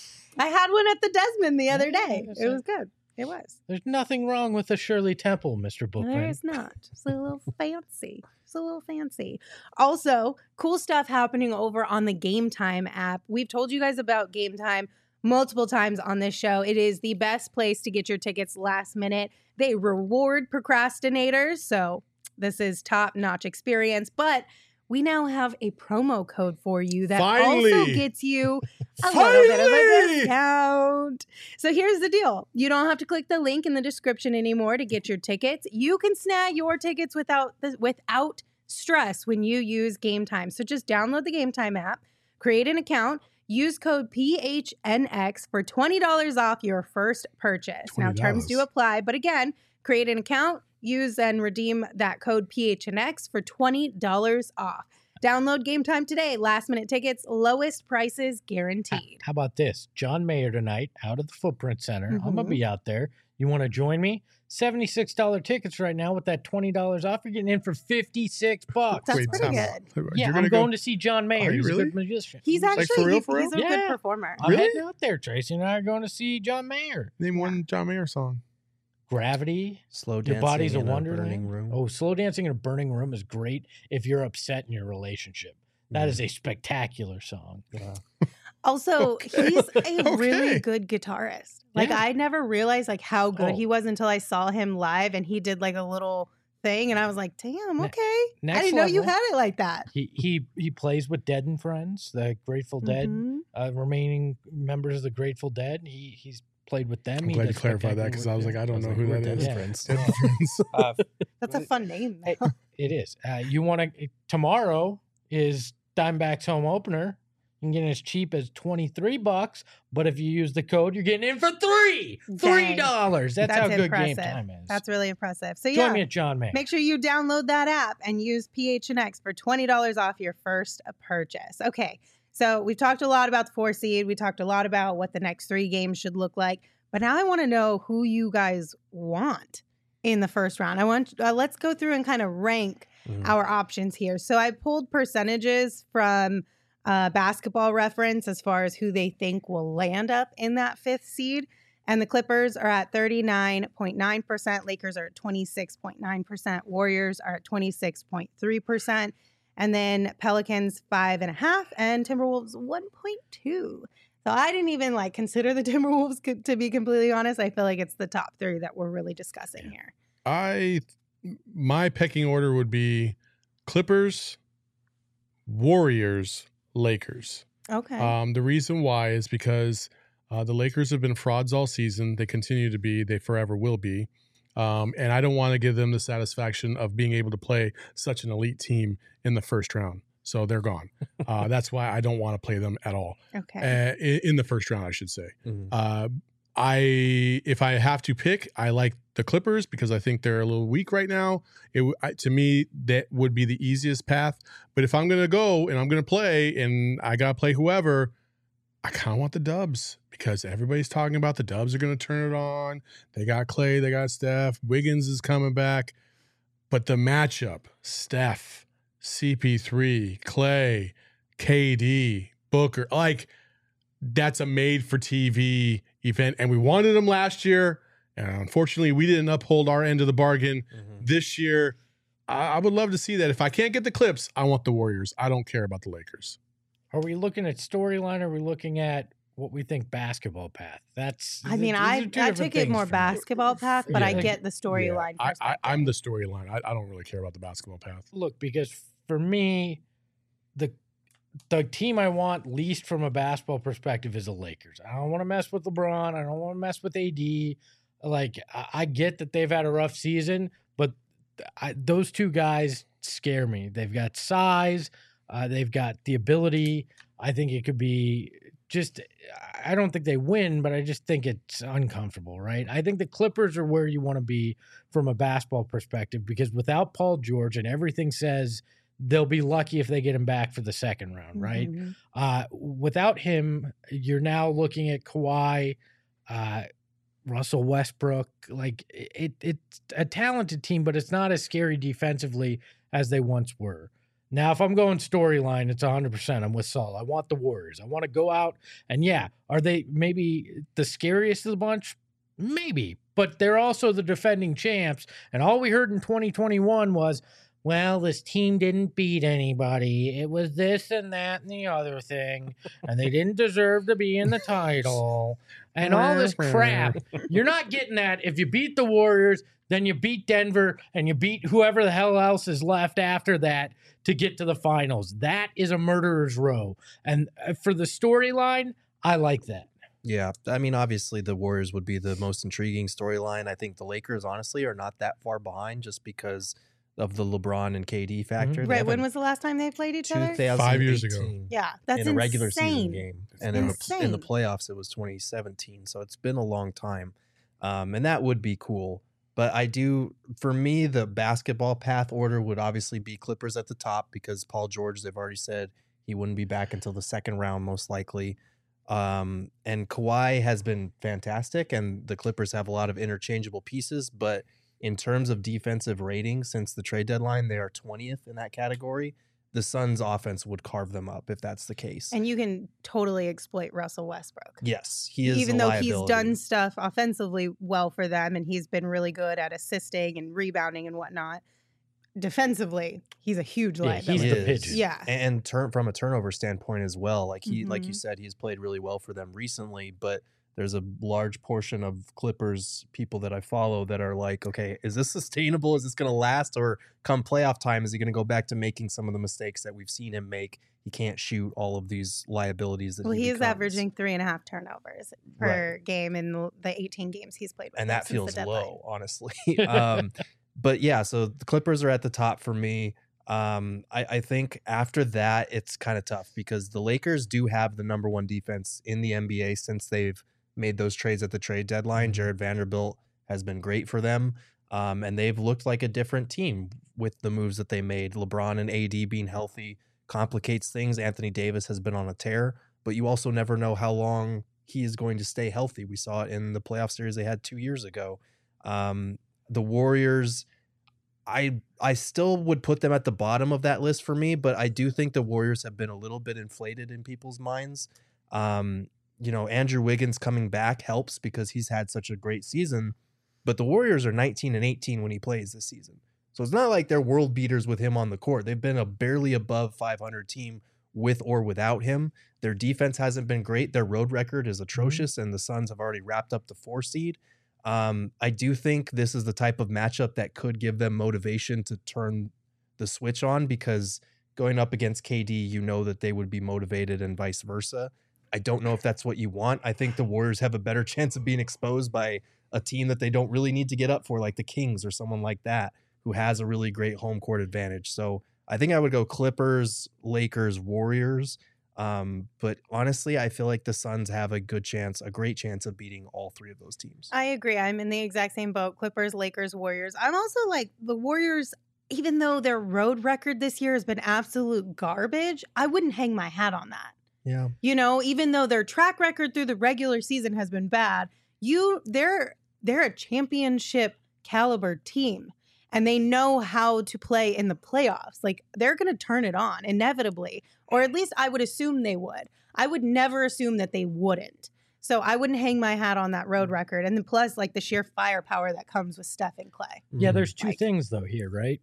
I had one at the Desmond the other Yeah, day. that's It it. was good. It was. There's nothing wrong with the Shirley Temple, Mister Bookman. There's not. It's a little fancy. It's a little fancy. Also, cool stuff happening over on the Game Time app. We've told you guys about Game Time multiple times on this show. It is the best place to get your tickets last minute. They reward procrastinators, so this is top-notch experience. But we now have a promo code for you that also Finally. gets you a little bit of a Finally. discount. So here's the deal. You don't have to click the link in the description anymore to get your tickets. You can snag your tickets without the, without stress when you use Game Time. So just download the Game Time app, create an account, use code P H N X for twenty dollars off your first purchase. Now, terms do twenty dollars. apply, but again, create an account, use and redeem that code P H N X for twenty dollars off. Download Game Time today. Last minute tickets, lowest prices guaranteed. How about this? John Mayer tonight out at the Footprint Center. I'm going Mhm. to be out there. You want to join me? seventy-six dollars tickets right now with that twenty dollars off. You're getting in for fifty-six bucks. That's Wait, pretty time good. out. Yeah, You're I'm gonna going go? to see John Mayer. Are you He's really? a good magician. He's Like, actually for real, he's, for real? he's a Yeah. good performer. I'm Really? heading out there. Tracy and I are going to see John Mayer. Name one John Mayer song. Gravity. Slow Your dancing body's a in wonderland. burning room. Oh, slow dancing in a burning room is great if you're upset in your relationship. That is a spectacular song. Also, Okay. he's a really Okay. good guitarist. Like Yeah. I never realized like how good Oh. he was until I saw him live and he did like a little thing, and I was like, damn, Ne- okay. I next didn't know you level. had it like that. He he he plays with Dead and Friends, the Grateful Dead, Mhm. uh, remaining members of the Grateful Dead. He he's played with them. I'm He glad you does clarified that spectacular because I work was there. like, I don't I was know like, who we're that Dead is. friends. Dead Friends. Uh, That's a fun name. Hey, it is. Uh, you want to tomorrow is Diamondbacks home opener. You can get it as cheap as twenty-three bucks, but if you use the code, you're getting in for three. Three Dang. dollars. That's, That's how good impressive. game time is. That's really impressive. So Join yeah, me at John May. make sure you download that app and use P H N X for twenty dollars off your first purchase. Okay, so we've talked a lot about the four seed. We talked a lot about what the next three games should look like. But now I want to know who you guys want in the first round. I want uh, let's go through and kind of rank Mhm. our options here. So I pulled percentages from uh, Basketball Reference as far as who they think will land up in that fifth seed. And the Clippers are at thirty-nine point nine percent. Lakers are at twenty-six point nine percent. Warriors are at twenty-six point three percent. And then Pelicans five and a half and Timberwolves one point two. So I didn't even like consider the Timberwolves co- to be completely honest. I feel like it's the top three that we're really discussing here. I my pecking order would be Clippers, Warriors, Lakers. Okay. Um, the reason why is because uh, the Lakers have been frauds all season. They continue to be. They forever will be. Um, and I don't want to give them the satisfaction of being able to play such an elite team in the first round. So they're gone. Uh, that's why I don't want to play them at all. okay. Uh, in, in the first round, I should say. Mhm. Uh, I if I have to pick, I like the Clippers because I think they're a little weak right now. It w- I, to me that would be the easiest path. But if I'm gonna go and I'm gonna play and I gotta play whoever, I kind of want the Dubs because everybody's talking about the Dubs are gonna turn it on. They got Clay, they got Steph, Wiggins is coming back, but the matchup: Steph, C P three, Clay, K D, Booker, like. That's a made for T V event. And we wanted them last year. And unfortunately, we didn't uphold our end of the bargain. Mhm. This year, I, I would love to see that. If I can't get the Clips, I want the Warriors. I don't care about the Lakers. Are we looking at storyline? Or are we looking at what we think basketball path? That's. I mean, these are I, two I different took it things more for me. basketball path, but I Yeah. get the storyline. I, I, perspective. I'm the storyline. I, I don't really care about the basketball path. Look, because for me, the the team I want least from a basketball perspective is the Lakers. I don't want to mess with LeBron. I don't want to mess with A D. Like, I, I get that they've had a rough season, but I, those two guys scare me. They've got size. Uh, they've got the ability. I think it could be just, I don't think they win, but I just think it's uncomfortable, right? I think the Clippers are where you want to be from a basketball perspective because without Paul George, and everything says they'll be lucky if they get him back for the second round, right? Mhm. Uh, without him, you're now looking at Kawhi, uh, Russell Westbrook. Like it, it's a talented team, but it's not as scary defensively as they once were. Now, if I'm going storyline, it's one hundred percent. I'm with Saul. I want the Warriors. I want to go out and yeah, are they maybe the scariest of the bunch? Maybe, but they're also the defending champs. And all we heard in twenty twenty-one was, well, this team didn't beat anybody. It was this and that and the other thing. And they didn't deserve to be in the title. And all this crap. You're not getting that. If you beat the Warriors, then you beat Denver and you beat whoever the hell else is left after that to get to the finals. That is a murderer's row. And uh, for the storyline, I like that. Yeah, I mean, obviously the Warriors would be the most intriguing storyline. I think the Lakers, honestly, are not that far behind just because of the LeBron and K D factor. They Right. When haven't- was the last time they played each other? Five years ago. two thousand eighteen Yeah, that's in a insane. regular season game, and in the, in the insane. playoffs it was twenty seventeen. So it's been a long time, um, and that would be cool. But I do, for me, the basketball path order would obviously be Clippers at the top because Paul George, they've already said he wouldn't be back until the second round, most likely. Um, and Kawhi has been fantastic, and the Clippers have a lot of interchangeable pieces. But in terms of defensive rating, since the trade deadline, they are twentieth in that category. The Suns' offense would carve them up if that's the case. And you can totally exploit Russell Westbrook. Yes, he is. Even a though he's liability. done stuff offensively well for them and he's been really good at assisting and rebounding and whatnot, defensively, he's a huge Yeah, he's liability. the is. pigeon. Yeah. and, and turn from a turnover standpoint as well. Like he, like you Mhm. said, he's played really well for them recently. But there's a large portion of Clippers people that I follow that are like, okay, is this sustainable? Is this going to last? Or come playoff time, is he going to go back to making some of the mistakes that we've seen him make? He can't shoot, all of these liabilities that well, he he is becomes. averaging three and a half turnovers per Right. game in the the eighteen games he's played with. And them that since the feels deadline. low, honestly. um, but yeah, so the Clippers are at the top for me. Um, I, I think after that, it's kind of tough because the Lakers do have the number one defense in the N B A since they've made those trades at the trade deadline. Jared Vanderbilt has been great for them. Um, and they've looked like a different team with the moves that they made. LeBron and A D being healthy complicates things. Anthony Davis has been on a tear, but you also never know how long he is going to stay healthy. We saw it in the playoff series they had two years ago. Um, the Warriors, I I still would put them at the bottom of that list for me, but I do think the Warriors have been a little bit inflated in people's minds. Um, you know, Andrew Wiggins coming back helps because he's had such a great season, but the Warriors are nineteen and eighteen when he plays this season. So it's not like they're world beaters with him on the court. They've been a barely above five hundred team with or without him. Their defense hasn't been great. Their road record is atrocious, and the Suns have already wrapped up the four seed. Um, I do think this is the type of matchup that could give them motivation to turn the switch on, because going up against K D, you know that they would be motivated and vice versa. I don't know if that's what you want. I think the Warriors have a better chance of being exposed by a team that they don't really need to get up for, like the Kings or someone like that, who has a really great home court advantage. So I think I would go Clippers, Lakers, Warriors. Um, but honestly, I feel like the Suns have a good chance, a great chance of beating all three of those teams. I agree. I'm in the exact same boat. Clippers, Lakers, Warriors. I'm also like the Warriors, even though their road record this year has been absolute garbage, I wouldn't hang my hat on that. Yeah. You know, even though their track record through the regular season has been bad, you they're they're a championship caliber team, and they know how to play in the playoffs. Like, they're going to turn it on inevitably, or at least I would assume they would. I would never assume that they wouldn't. So I wouldn't hang my hat on that road record. And then plus, like, the sheer firepower that comes with Steph and Clay. Yeah, there's two Like- things though here, right?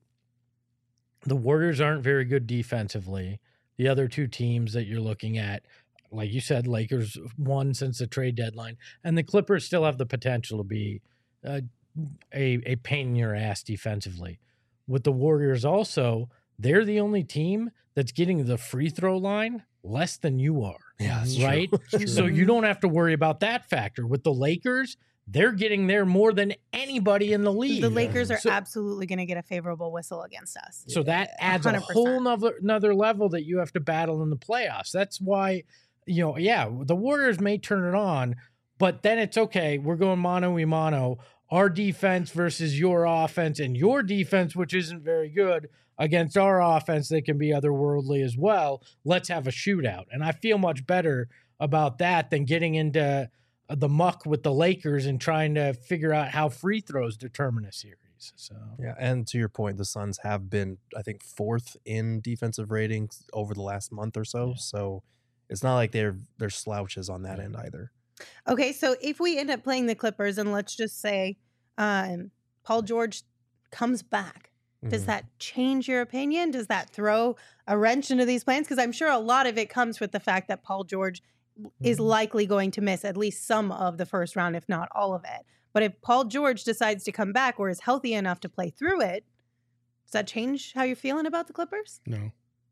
The Warriors aren't very good defensively. The other two teams that you're looking at, like you said, Lakers won since the trade deadline, and the Clippers still have the potential to be uh, a a pain in your ass defensively. With the Warriors also, they're the only team that's getting the free throw line less than you are. Yeah, that's right. true. So you don't have to worry about that factor. With the Lakers, they're getting there more than anybody in the league. The Lakers are So- absolutely going to get a favorable whistle against us. So that adds a one hundred percent. whole nother, another level that you have to battle in the playoffs. That's why, you know, yeah, the Warriors may turn it on, but then it's okay. We're going mano a mano. Our defense versus your offense, and your defense, which isn't very good, against our offense that can be otherworldly as well. Let's have a shootout. And I feel much better about that than getting into the muck with the Lakers and trying to figure out how free throws determine a series. So Yeah, and to your point, the Suns have been, I think, fourth in defensive ratings over the last month or so. Yeah. So it's not like they're they're slouches on that end either. Okay, so if we end up playing the Clippers, and let's just say um, Paul George comes back, does Mhm. that change your opinion? Does that throw a wrench into these plans? Because I'm sure a lot of it comes with the fact that Paul George is Mhm. likely going to miss at least some of the first round, if not all of it. But if Paul George decides to come back or is healthy enough to play through it, does that change how you're feeling about the Clippers? No.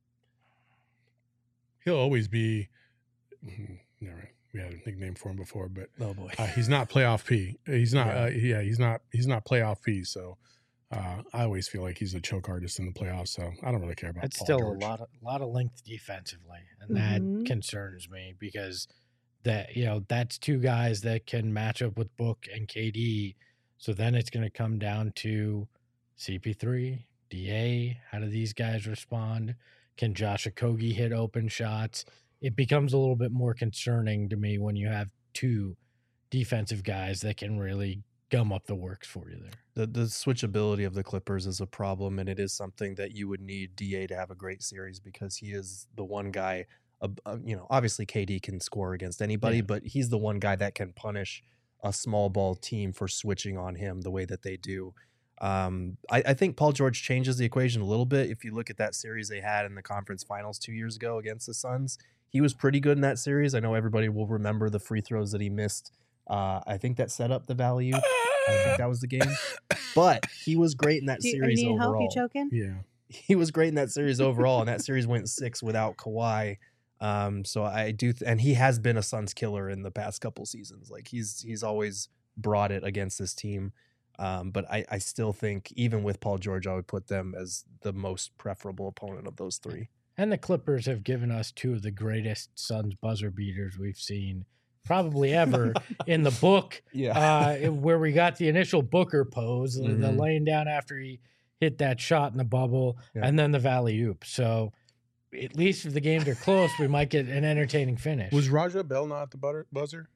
He'll always be. mm, Never. We had a nickname for him before, but Oh boy. uh, he's not playoff P. He's not. Yeah. Uh, yeah, he's not. He's not playoff P. So uh, I always feel like he's a choke artist in the playoffs. So I don't really care about. That's Paul still George. a lot of lot of length defensively, and Mhm. that concerns me because that you know that's two guys that can match up with Book and K D. So then it's going to come down to C P three, D A. How do these guys respond? Can Josh Okogie hit open shots? It becomes a little bit more concerning to me when you have two defensive guys that can really gum up the works for you there. The the switchability of the Clippers is a problem, and it is something that you would need D A to have a great series, because he is the one guy. Uh, uh, you know, obviously K D can score against anybody, Yeah. but he's the one guy that can punish a small ball team for switching on him the way that they do. Um, I, I think Paul George changes the equation a little bit. If you look at that series they had in the conference finals two years ago against the Suns, he was pretty good in that series. I know everybody will remember the free throws that he missed Uh, I think that set up the Valley Oop. I think that was the game. But he was great in that Do you, series you need overall. help? You choking? Yeah. He was great in that series overall, and that series went six without Kawhi. Um, so I do, th- and he has been a Suns killer in the past couple seasons. Like he's he's always brought it against this team. Um, but I, I still think even with Paul George, I would put them as the most preferable opponent of those three. And the Clippers have given us two of the greatest Suns buzzer beaters we've seen probably ever in the book. Yeah. Uh, where we got the initial Booker pose, the- the Mhm. laying down after he hit that shot in the bubble, Yeah. and then the Valley Oop. So at least if the games are close, we might get an entertaining finish. Was Raja Bell not at the butter, buzzer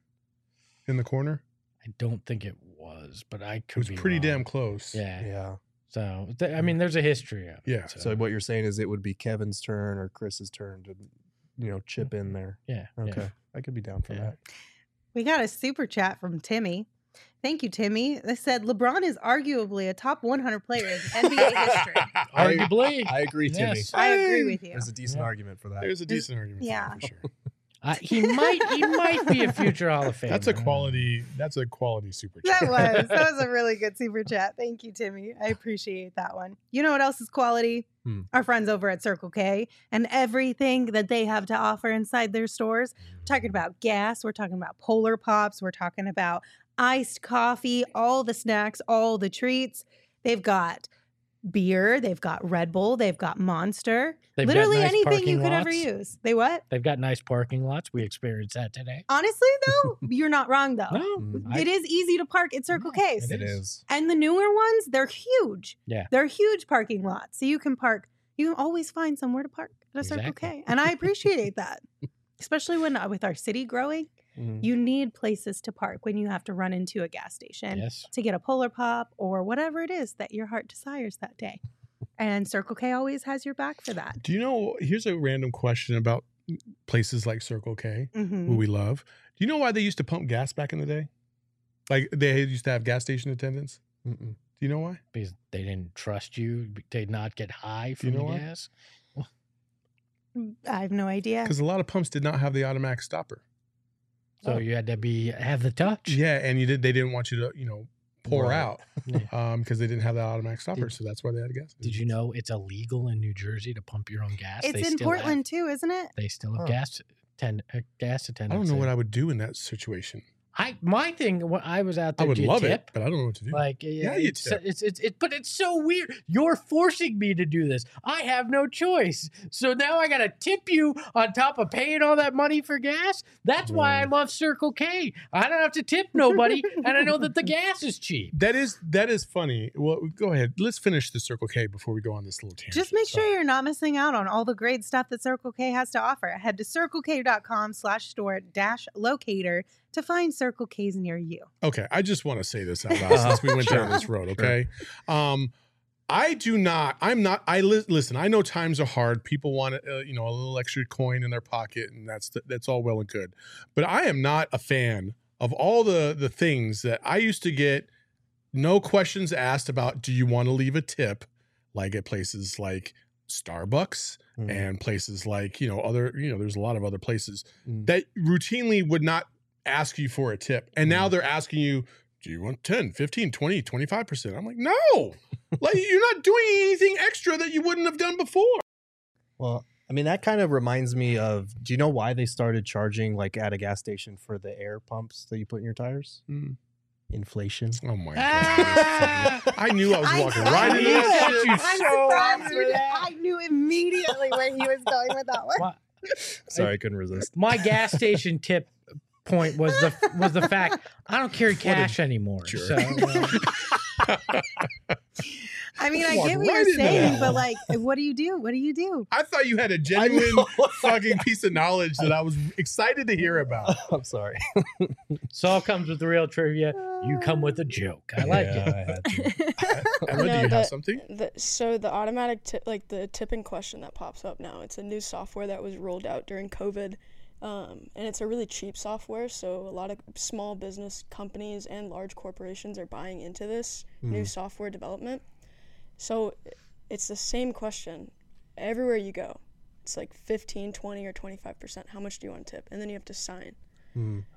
in the corner? I don't think it was, but I It could was be pretty wrong. damn close. Yeah. Yeah. So th- I mean, there's a history of it. Yeah. So what you're saying is it would be Kevin's turn or Chris's turn to, you know, chip in there. Yeah. Okay. yeah. I could be down for Yeah. that. We got a super chat from Timmy. Thank you, Timmy. They said LeBron is arguably a top one hundred player in N B A history. Arguably. I agree, Timmy. Yes. I agree with you. There's a decent Yeah. argument for that. There's a decent argument. yeah. For, that, for sure. Uh, he might he might be a future Hall of Famer. That's a quality. That's a quality super chat. That was that was a really good super chat. Thank you, Timmy. I appreciate that one. You know what else is quality? Hmm. Our friends over at Circle K and everything that they have to offer inside their stores. We're talking about gas. We're talking about Polar Pops. We're talking about iced coffee, all the snacks, all the treats. They've got beer. They've got Red Bull. They've got Monster. They've got Literally nice anything you parking could ever lots. use. They what? They've got nice parking lots. We experienced that today. Honestly, though, you're not wrong, though. No, Mm. I- It is easy to park at Circle K. it It is. is. And the newer ones, they're huge. Yeah. They're huge parking lots. So you can park, you can always find somewhere to park at a Circle Exactly. K. And I appreciate that. Especially when uh, with our city growing, Mhm. you need places to park when you have to run into a gas station Yes. to get a Polar Pop or whatever it is that your heart desires that day. And Circle K always has your back for that. Do you know? Here's a random question about places like Circle K, Mhm. who we love. Do you know why they used to pump gas back in the day? Like they used to have gas station attendants. Mm-mm. Do you know why? Because they didn't trust you to not get high you from know the why? gas. I have no idea. Because a lot of pumps did not have the automatic stopper. So Oh. you had to be have the touch. Yeah, and you did. They didn't want you to, you know, pour Right. out Yeah. um because they didn't have that automatic stopper. Did- so that's why they had gas. Did you know it's illegal in New Jersey to pump your own gas? It's They in still have- Portland too, isn't it? They still have Huh. gas ten, uh, gas I attendants. don't know what there. I would do in that situation. I my thing when I was out I there. would do you love tip? it, but I don't know what to do. Like Yeah, yeah, you it's, tip. it's it's it, but it's so weird. You're forcing me to do this. I have no choice. So now I gotta tip you on top of paying all that money for gas. That's why I love Circle K. I don't have to tip nobody, and I know that the gas is cheap. That is that is funny. Well, go ahead. Let's finish the Circle K before we go on this little tangent. Just make sure Sorry. you're not missing out on all the great stuff that Circle K has to offer. Head to circlek.com slash store dash locator to find Circle K's near you. Okay, I just want to say this out loud since we went down this road. Okay, um, I do not. I'm not. I li- listen. I know times are hard. People want uh, you know a little extra coin in their pocket, and that's the, that's all well and good. But I am not a fan of all the the things that I used to get. No questions asked about. Do you want to leave a tip? Like at places like Starbucks Mm. and places like you know other you know there's a lot of other places Mm. that routinely would not ask you for a tip, and now Mm. they're asking you, do you want ten, fifteen, twenty, twenty-five percent? I'm like, no. Like you're not doing anything extra that you wouldn't have done before. Well, I mean, that kind of reminds me of, do you know why they started charging like at a gas station for the air pumps that you put in your tires? Mm. Inflation. Oh my Ah! god. I knew I was I- walking I right into knew that it. shit. I'm so surprised after you did. that. I knew immediately where he was going with that one. My, Sorry, I couldn't resist. my gas station tip point was the was the fact I don't carry cash anymore. jerk. So uh, I mean, I Walked get what right you're into saying, that but one. like, what do you do? What do you do? I thought you had a genuine fucking piece of knowledge that I was excited to hear about. I'm sorry. Saul comes with the real trivia. You come with a joke. I like Yeah, it. I had to. Emma, do No, you have that- something? The, so the automatic tip, like the tipping question that pops up now, it's a new software that was rolled out during COVID, um, and it's a really cheap software. So a lot of small business companies and large corporations are buying into this new software development. So it's the same question everywhere you go. It's like fifteen, twenty, or twenty-five percent. How much do you want to tip? And then you have to sign. Mm.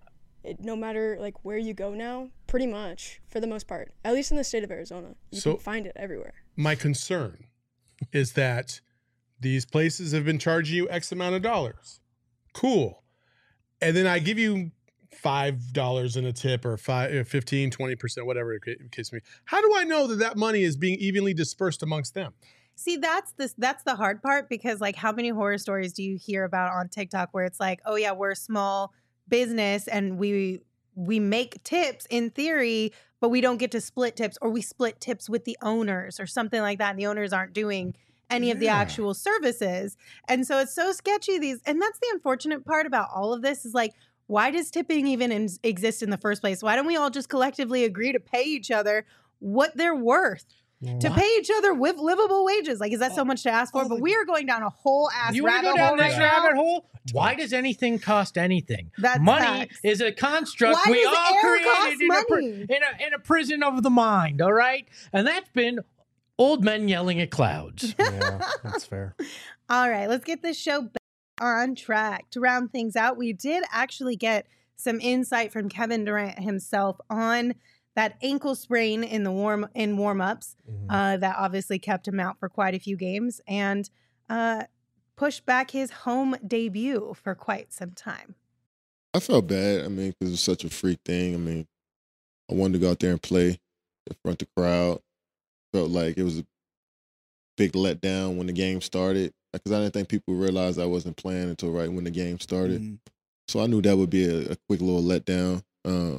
it, no matter like where you go now, pretty much for the most part, at least in the state of Arizona, you So- can find it everywhere. My concern is that these places have been charging you X amount of dollars. Cool. And then I give you five dollars in a tip or five, fifteen, twenty percent, whatever it case may be. How do I know that that money is being evenly dispersed amongst them? See, that's this that's the hard part, because like how many horror stories do you hear about on TikTok where it's like, oh yeah, we're a small business and we we make tips in theory, but we don't get to split tips, or we split tips with the owners or something like that, and the owners aren't doing any of the Yeah. actual services. And so it's so sketchy these and that's the unfortunate part about all of this is like, why does tipping even in, exist in the first place? Why don't we all just collectively agree to pay each other what they're worth? To What? pay each other with livable wages. Like, is that so much to ask for? oh, but the- we are going down a whole ass You want to rabbit go down hole this right now. rabbit hole? Why does anything cost anything? That's money facts. is a construct Why we does all air created cost in a, pri- money? in, a, in a prison of the mind, all right? And that's been old men yelling at clouds. Yeah, that's fair. All right, let's get this show back on track. To round things out, we did actually get some insight from Kevin Durant himself on that ankle sprain in the warm in warm-ups Mhm. uh, that obviously kept him out for quite a few games, and uh, pushed back his home debut for quite some time. I felt bad. I mean, because it was such a freak thing. I mean, I wanted to go out there and play in front of the crowd. Felt like it was a big letdown when the game started, because I didn't think people realized I wasn't playing until right when the game started. Mhm. So I knew that would be a, a quick little letdown. Uh,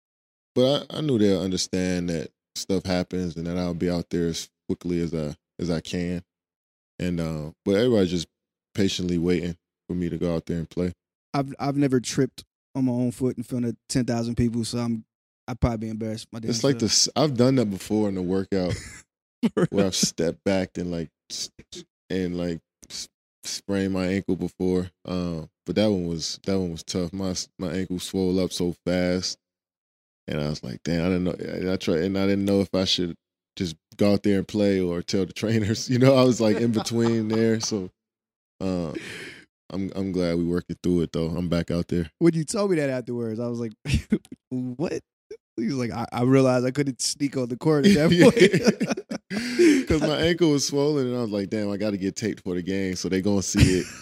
but I, I knew they'll understand that stuff happens and that I'll be out there as quickly as I as I can. And uh, but everybody's just patiently waiting for me to go out there and play. I've I've never tripped on my own foot in front of ten thousand people, so I'm I'd probably be embarrassed. My damn It's like self. this. I've done that before in the workout where I've stepped back and like s- and like s- sprained my ankle before. Um, but that one was that one was tough. My my ankle swelled up so fast, and I was like, damn, I didn't know. And I tried, and I didn't know if I should just go out there and play or tell the trainers. You know, I was like in between there. So, uh, I'm I'm glad we working through it though. I'm back out there. When you told me that afterwards, I was like, what? He was like, I, I realized I couldn't sneak on the court at that point. Because my ankle was swollen, and I was like, damn, I got to get taped for the game, so they gonna see it.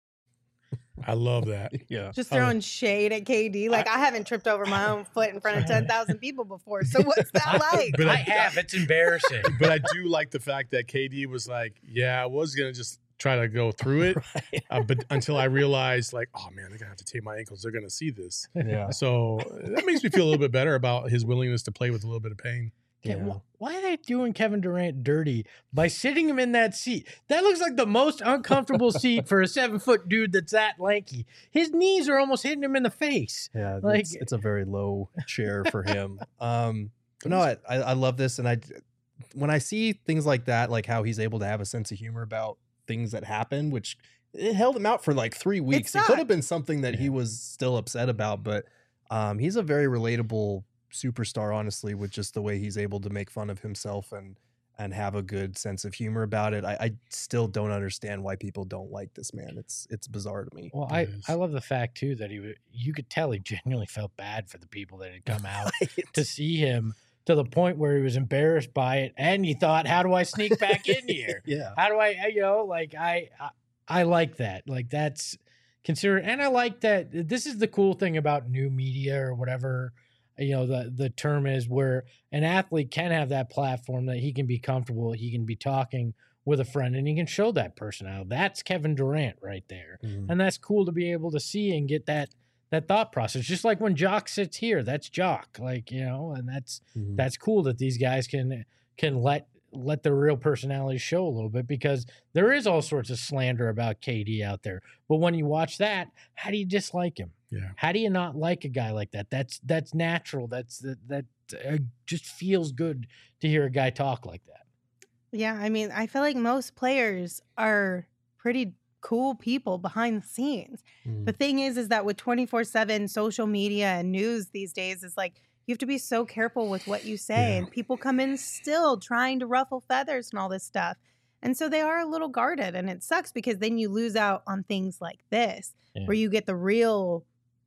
I love that. Yeah. Just Oh. throwing shade at K D. Like, I, haven't tripped over my own foot in front of ten thousand people before. So what's that like? But I I, have. It's embarrassing. but I do like the fact that K D was like, yeah, I was gonna just try to go through it, uh, but until I realized, like, oh man, they're gonna have to tape my ankles. They're gonna see this. Yeah. So that makes me feel a little bit better about his willingness to play with a little bit of pain. Okay, Yeah. wh- Why are they doing Kevin Durant dirty by sitting him in that seat? That looks like the most uncomfortable seat for a seven foot dude that's that lanky. His knees are almost hitting him in the face. Yeah, Like- it's, it's a very low chair for him. Um, but no, I, I I love this, and I when I see things like that, like how he's able to have a sense of humor about things that happen, which it held him out for like three weeks. It, could have sucked. been something that he was still upset about, but um, he's a very relatable superstar, honestly, with just the way he's able to make fun of himself and and have a good sense of humor about it. I, I still don't understand why people don't like this man. It's it's bizarre to me. Well, It I, is. I love the fact too that he wa- you could tell he genuinely felt bad for the people that had come out to see him, to the point where he was embarrassed by it, and he thought, "How do I sneak back in here? Yeah. How do I, I- you know, like I, I, I like that. Like that's considered, and I like that. This is the cool thing about new media or whatever, you know, the the term is, where an athlete can have that platform that he can be comfortable, he can be talking with a friend, and he can show that personality. That's Kevin Durant right there, Mhm. and that's cool to be able to see and get that that thought process. Just like when Jock sits here, that's Jock, like, you know, and that's Mhm. that's cool that these guys can can let let their real personalities show a little bit, because there is all sorts of slander about K D out there. But when you watch that, how do you dislike him? Yeah. How do you not like a guy like that? That's that's natural. That's that that uh, just feels good to hear a guy talk like that. Yeah, I mean, I feel like most players are pretty cool people behind the scenes. Mhm. The thing is, is that with twenty-four seven social media and news these days, is like you have to be so careful with what you say. Yeah. And people come in still trying to ruffle feathers and all this stuff. And so they are a little guarded. And it sucks because then you lose out on things like this, Yeah. where you get the real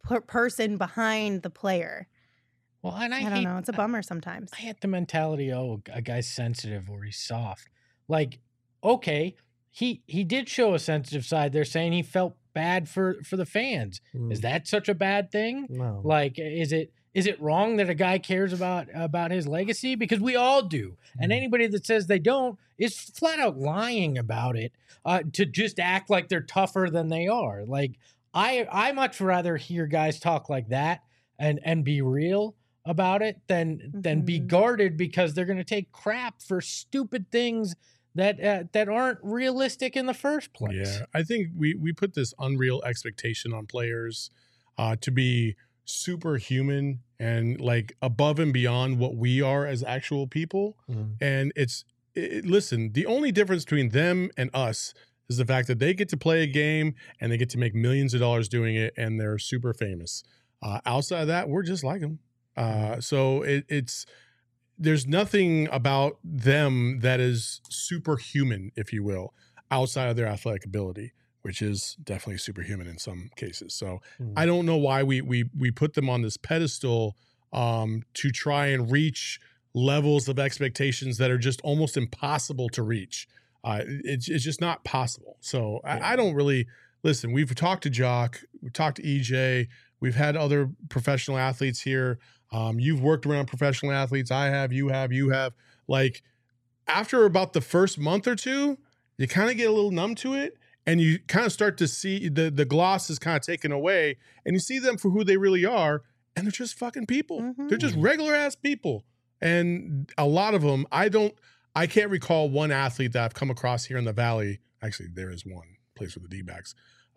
per- person behind the player. Well, and I, I, hate, don't know. It's a bummer sometimes. I hate the mentality, oh, a guy's sensitive or he's soft. Like, okay, he he did show a sensitive side. They're saying he felt bad for, for the fans. Mm. Is that such a bad thing? No. Like, is it is it wrong that a guy cares about about his legacy? Because we all do. And anybody that says they don't is flat out lying about it uh, to just act like they're tougher than they are. Like, I I much rather hear guys talk like that and and be real about it than mm-hmm. than be guarded because they're going to take crap for stupid things that uh, that aren't realistic in the first place. Yeah, I think we we put this unreal expectation on players uh, to be superhuman and like above and beyond what we are as actual people. Mm-hmm. And it's it, listen, the only difference between them and us is the fact that they get to play a game and they get to make millions of dollars doing it, and they're super famous. Uh, outside of that, we're just like them. Uh, so it, it's there's nothing about them that is superhuman, if you will, outside of their athletic ability, which is definitely superhuman in some cases. So mm. I don't know why we we we put them on this pedestal um, to try and reach levels of expectations that are just almost impossible to reach. Uh, it's it's just not possible. So yeah. I, I don't really listen. We've talked to Jock, we've talked to E J, we've had other professional athletes here. Um, you've worked around professional athletes. I have, you have, you have. Like after about the first month or two, you kind of get a little numb to it, and you kind of start to see the the gloss is kind of taken away, and you see them for who they really are, and they're just fucking people. Mm-hmm. They're just regular ass people, and a lot of them, I don't, I can't recall one athlete that I've come across here in the Valley. Actually, there is one, plays for the D-backs,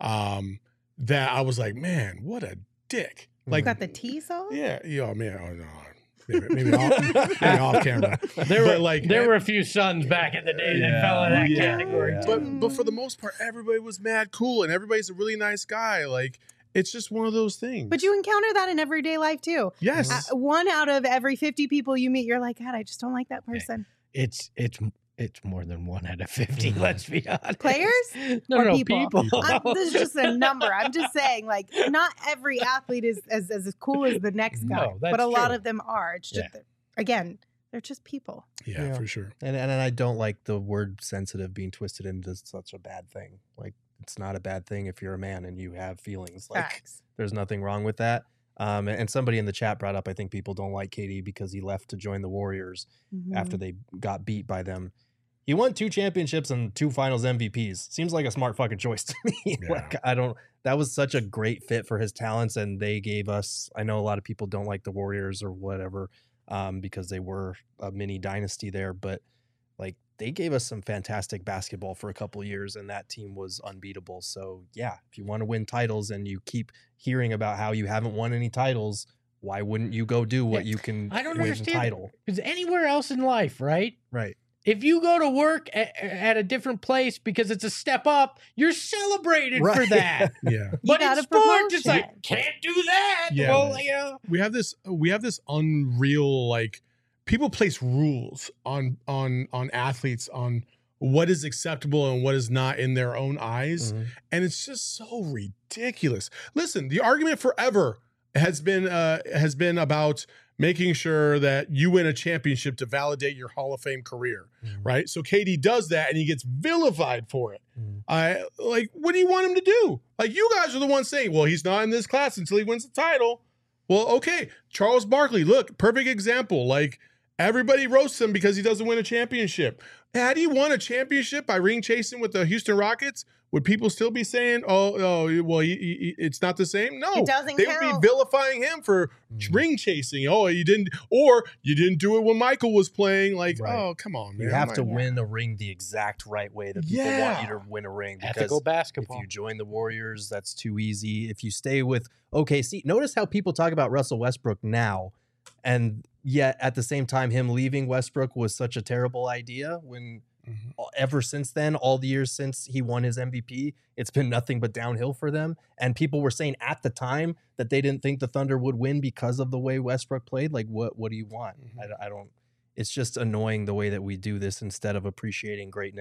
um, that I was like, man, what a dick. Like, got the T sauce? Yeah, yeah, man. Oh, no. Maybe, maybe, off, maybe off camera. There but were like there were a few sons back in the day yeah, that fell in that yeah, category. Yeah. But but for the most part, everybody was mad cool, and everybody's a really nice guy. Like it's just one of those things. But you encounter that in everyday life too. Yes, uh, one out of every fifty people you meet, you're like, God, I just don't like that person. It's it's. It's more than one out of fifty, let's be honest. Players? No, or no, people. people. I'm, this is just a number. I'm just saying, like, not every athlete is as, as cool as the next guy, no, that's but a true. lot of them are. It's just, yeah. again, they're just people. Yeah, yeah, for sure. And, and and I don't like the word sensitive being twisted into such a bad thing. Like, it's not a bad thing if you're a man and you have feelings. Like, Facts. There's nothing wrong with that. Um, and somebody in the chat brought up, I think people don't like K D because he left to join the Warriors mm-hmm. after they got beat by them. He won two championships and two finals M V Ps. Seems like a smart fucking choice to me. Yeah. Like, I don't, that was such a great fit for his talents. And they gave us, I know a lot of people don't like the Warriors or whatever um, because they were a mini dynasty there, but like they gave us some fantastic basketball for a couple of years and that team was unbeatable. So yeah, if you want to win titles and you keep hearing about how you haven't won any titles, why wouldn't you go do what you can I don't win understand a title? Because anywhere else in life, right? Right. If you go to work at, at a different place because it's a step up, you're celebrated right. for that. Yeah. But in sports, it's like, can't do that. Yeah. Well, you know. We have this we have this unreal, like, people place rules on on on athletes on what is acceptable and what is not in their own eyes. Mm-hmm. And it's just so ridiculous. Listen, the argument forever has been uh, has been about making sure that you win a championship to validate your Hall of Fame career, mm-hmm. right? So K D does that and he gets vilified for it. Mm-hmm. I like, what do you want him to do? Like, you guys are the ones saying, well, he's not in this class until he wins the title. Well, okay, Charles Barkley, look, perfect example. Like, everybody roasts him because he doesn't win a championship. Had he won a championship by ring chasing with the Houston Rockets, would people still be saying, "Oh, oh, well, he, he, it's not the same"? No, it doesn't they count. would be vilifying him for mm. ring chasing. Oh, you didn't, or you didn't do it when Michael was playing. Like, right. oh, come on, man! You have like, to win a ring the exact right way that people yeah. want you to win a ring. Because ethical basketball. If you join the Warriors, that's too easy. If you stay with O K C, notice how people talk about Russell Westbrook now, and yet at the same time, him leaving Westbrook was such a terrible idea when. Mm-hmm. Ever since then, all the years since he won his M V P, it's been nothing but downhill for them. And people were saying at the time that they didn't think the Thunder would win because of the way Westbrook played. Like, what what do you want? Mm-hmm. I, I don't. It's just annoying the way that we do this instead of appreciating greatness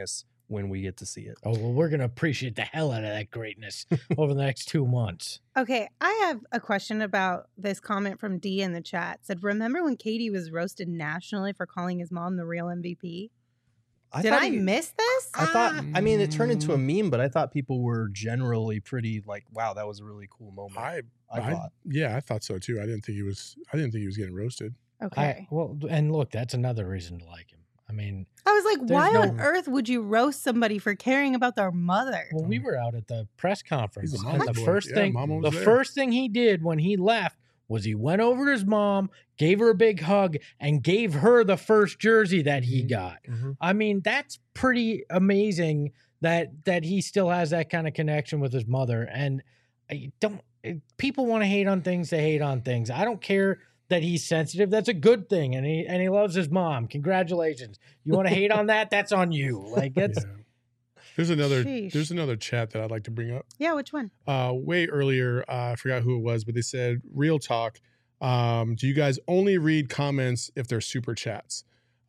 when we get to see it. Oh, well, we're going to appreciate the hell out of that greatness over the next two months. Okay, I have a question about this comment from D in the chat. Said, remember when K D was roasted nationally for calling his mom the real M V P? I Did thought I he- miss this? I thought, I mean, it turned into a meme, but I thought people were generally pretty like, wow, that was a really cool moment. I, I I thought. yeah, I thought so too. I didn't think he was. I didn't think he was getting roasted. Okay. I, well, and look, that's another reason to like him. I mean, I was like, There's why no- on earth would you roast somebody for caring about their mother? well, we were out at the press conference, He's a and mama's the boy. first Yeah, thing, mama was the there. first thing he did when he left was he went over to his mom, gave her a big hug, and gave her the first jersey that he got. Mhm. I mean, that's pretty amazing that that he still has that kind of connection with his mother. And I don't people want to hate on things, they hate on things. I don't care that he's sensitive. That's a good thing, and he and he loves his mom. Congratulations. You want to hate on that? That's on you. Like that's Yeah. There's another. Sheesh. There's another chat that I'd like to bring up. Yeah, which one? Uh, way earlier, uh, I forgot who it was, but they said, "Real talk. Um, do you guys only read comments if they're super chats?"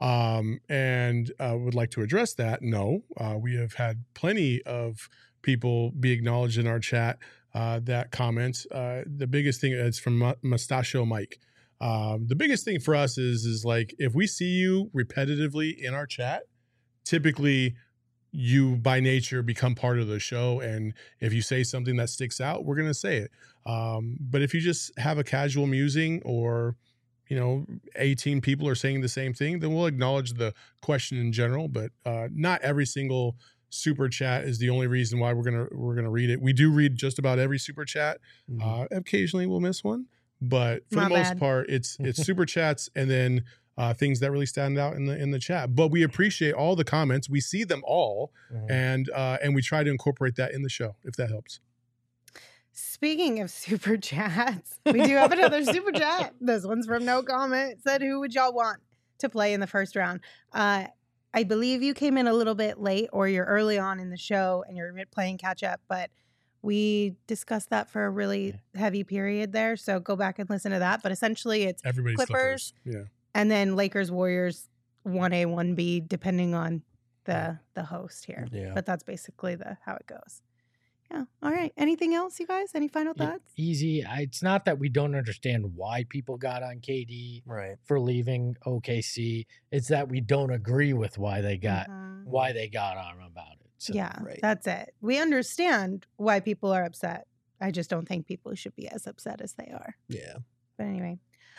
Um, and uh, would like to address that. No, uh, we have had plenty of people be acknowledged in our chat uh, that comment. Uh, the biggest thing is from Mu- Mustachio Mike. Um, the biggest thing for us is is like if we see you repetitively in our chat, typically you by nature become part of the show, and if you say something that sticks out, we're gonna say it. Um, but if you just have a casual musing, or you know, eighteen people are saying the same thing, then we'll acknowledge the question in general. But uh, not every single super chat is the only reason why we're gonna we're gonna read it. We do read just about every super chat. Mhm. Uh, occasionally we'll miss one, but for My the most bad. part, it's it's super chats and then uh, things that really stand out in the in the chat. But we appreciate all the comments. We see them all, Mhm. and uh, and we try to incorporate that in the show if that helps. Speaking of super chats, we do have another super chat. This one's from No Comment. It said, who would y'all want to play in the first round? Uh, I believe you came in a little bit late, or you're early on in the show and you're playing catch up, but we discussed that for a really heavy period there. So go back and listen to that. But essentially, it's Everybody's Clippers, Clippers. Yeah. and then Lakers, Warriors, one A, one B, depending on the the host here. Yeah. But that's basically the how it goes. Yeah. All right. Anything else, you guys? Any final Yeah, thoughts? easy. I- It's not that we don't understand why people got on K D Right. for leaving O K C. It's that we don't agree with why they got Mhm. why they got on him about it. So, Yeah, right. that's it. We understand why people are upset. I just don't think people should be as upset as they are. Yeah. But anyway.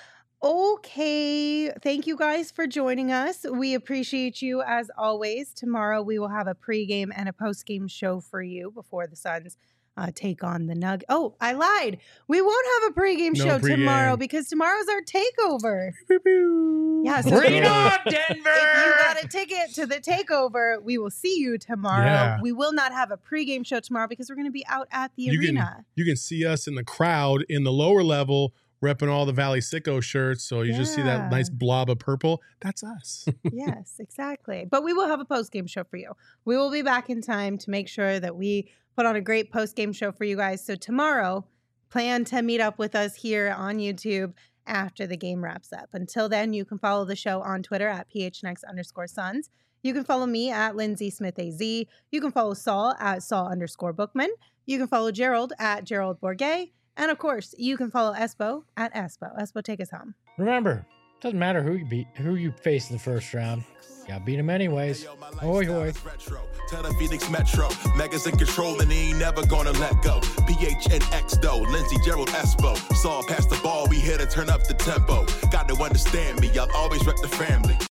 Okay. Thank you guys for joining us. We appreciate you as always. Tomorrow we will have a pregame and a postgame show for you before the Suns uh, take on the Nug. Oh, I lied. We won't have a pregame No show tomorrow pregame. because tomorrow's our takeover. Pew, pew. Yeah, so bring it if- on, If Denver! you got a ticket to the takeover, we will see you tomorrow. Yeah. We will not have a pregame show tomorrow because we're going to be out at the You can- arena. You can see us in the crowd in the lower level repping all the Valley Sicko shirts. So you just see Yeah. that nice blob of purple. That's us. Yes, exactly. But we will have a post-game show for you. We will be back in time to make sure that we put on a great post-game show for you guys. So tomorrow, plan to meet up with us here on YouTube after the game wraps up. Until then, you can follow the show on Twitter at P H N X underscore Suns. You can follow me at Lindsay Smith A Z. You can follow Saul at Saul underscore Bookman. You can follow Gerald at Gerald Bourget. And of course, you can follow Espo at Espo. Espo, take us home. Remember, doesn't matter who you beat, who you face in the first round. You gotta beat them anyways. Hoy hoy. Tell the Phoenix Metro, Megas in control and he ain't never gonna let go. P H N X though, Lindsey, Gerald, Espo. Saw pass the ball, we here to turn up the tempo. Got to understand me, I'll always rep the family.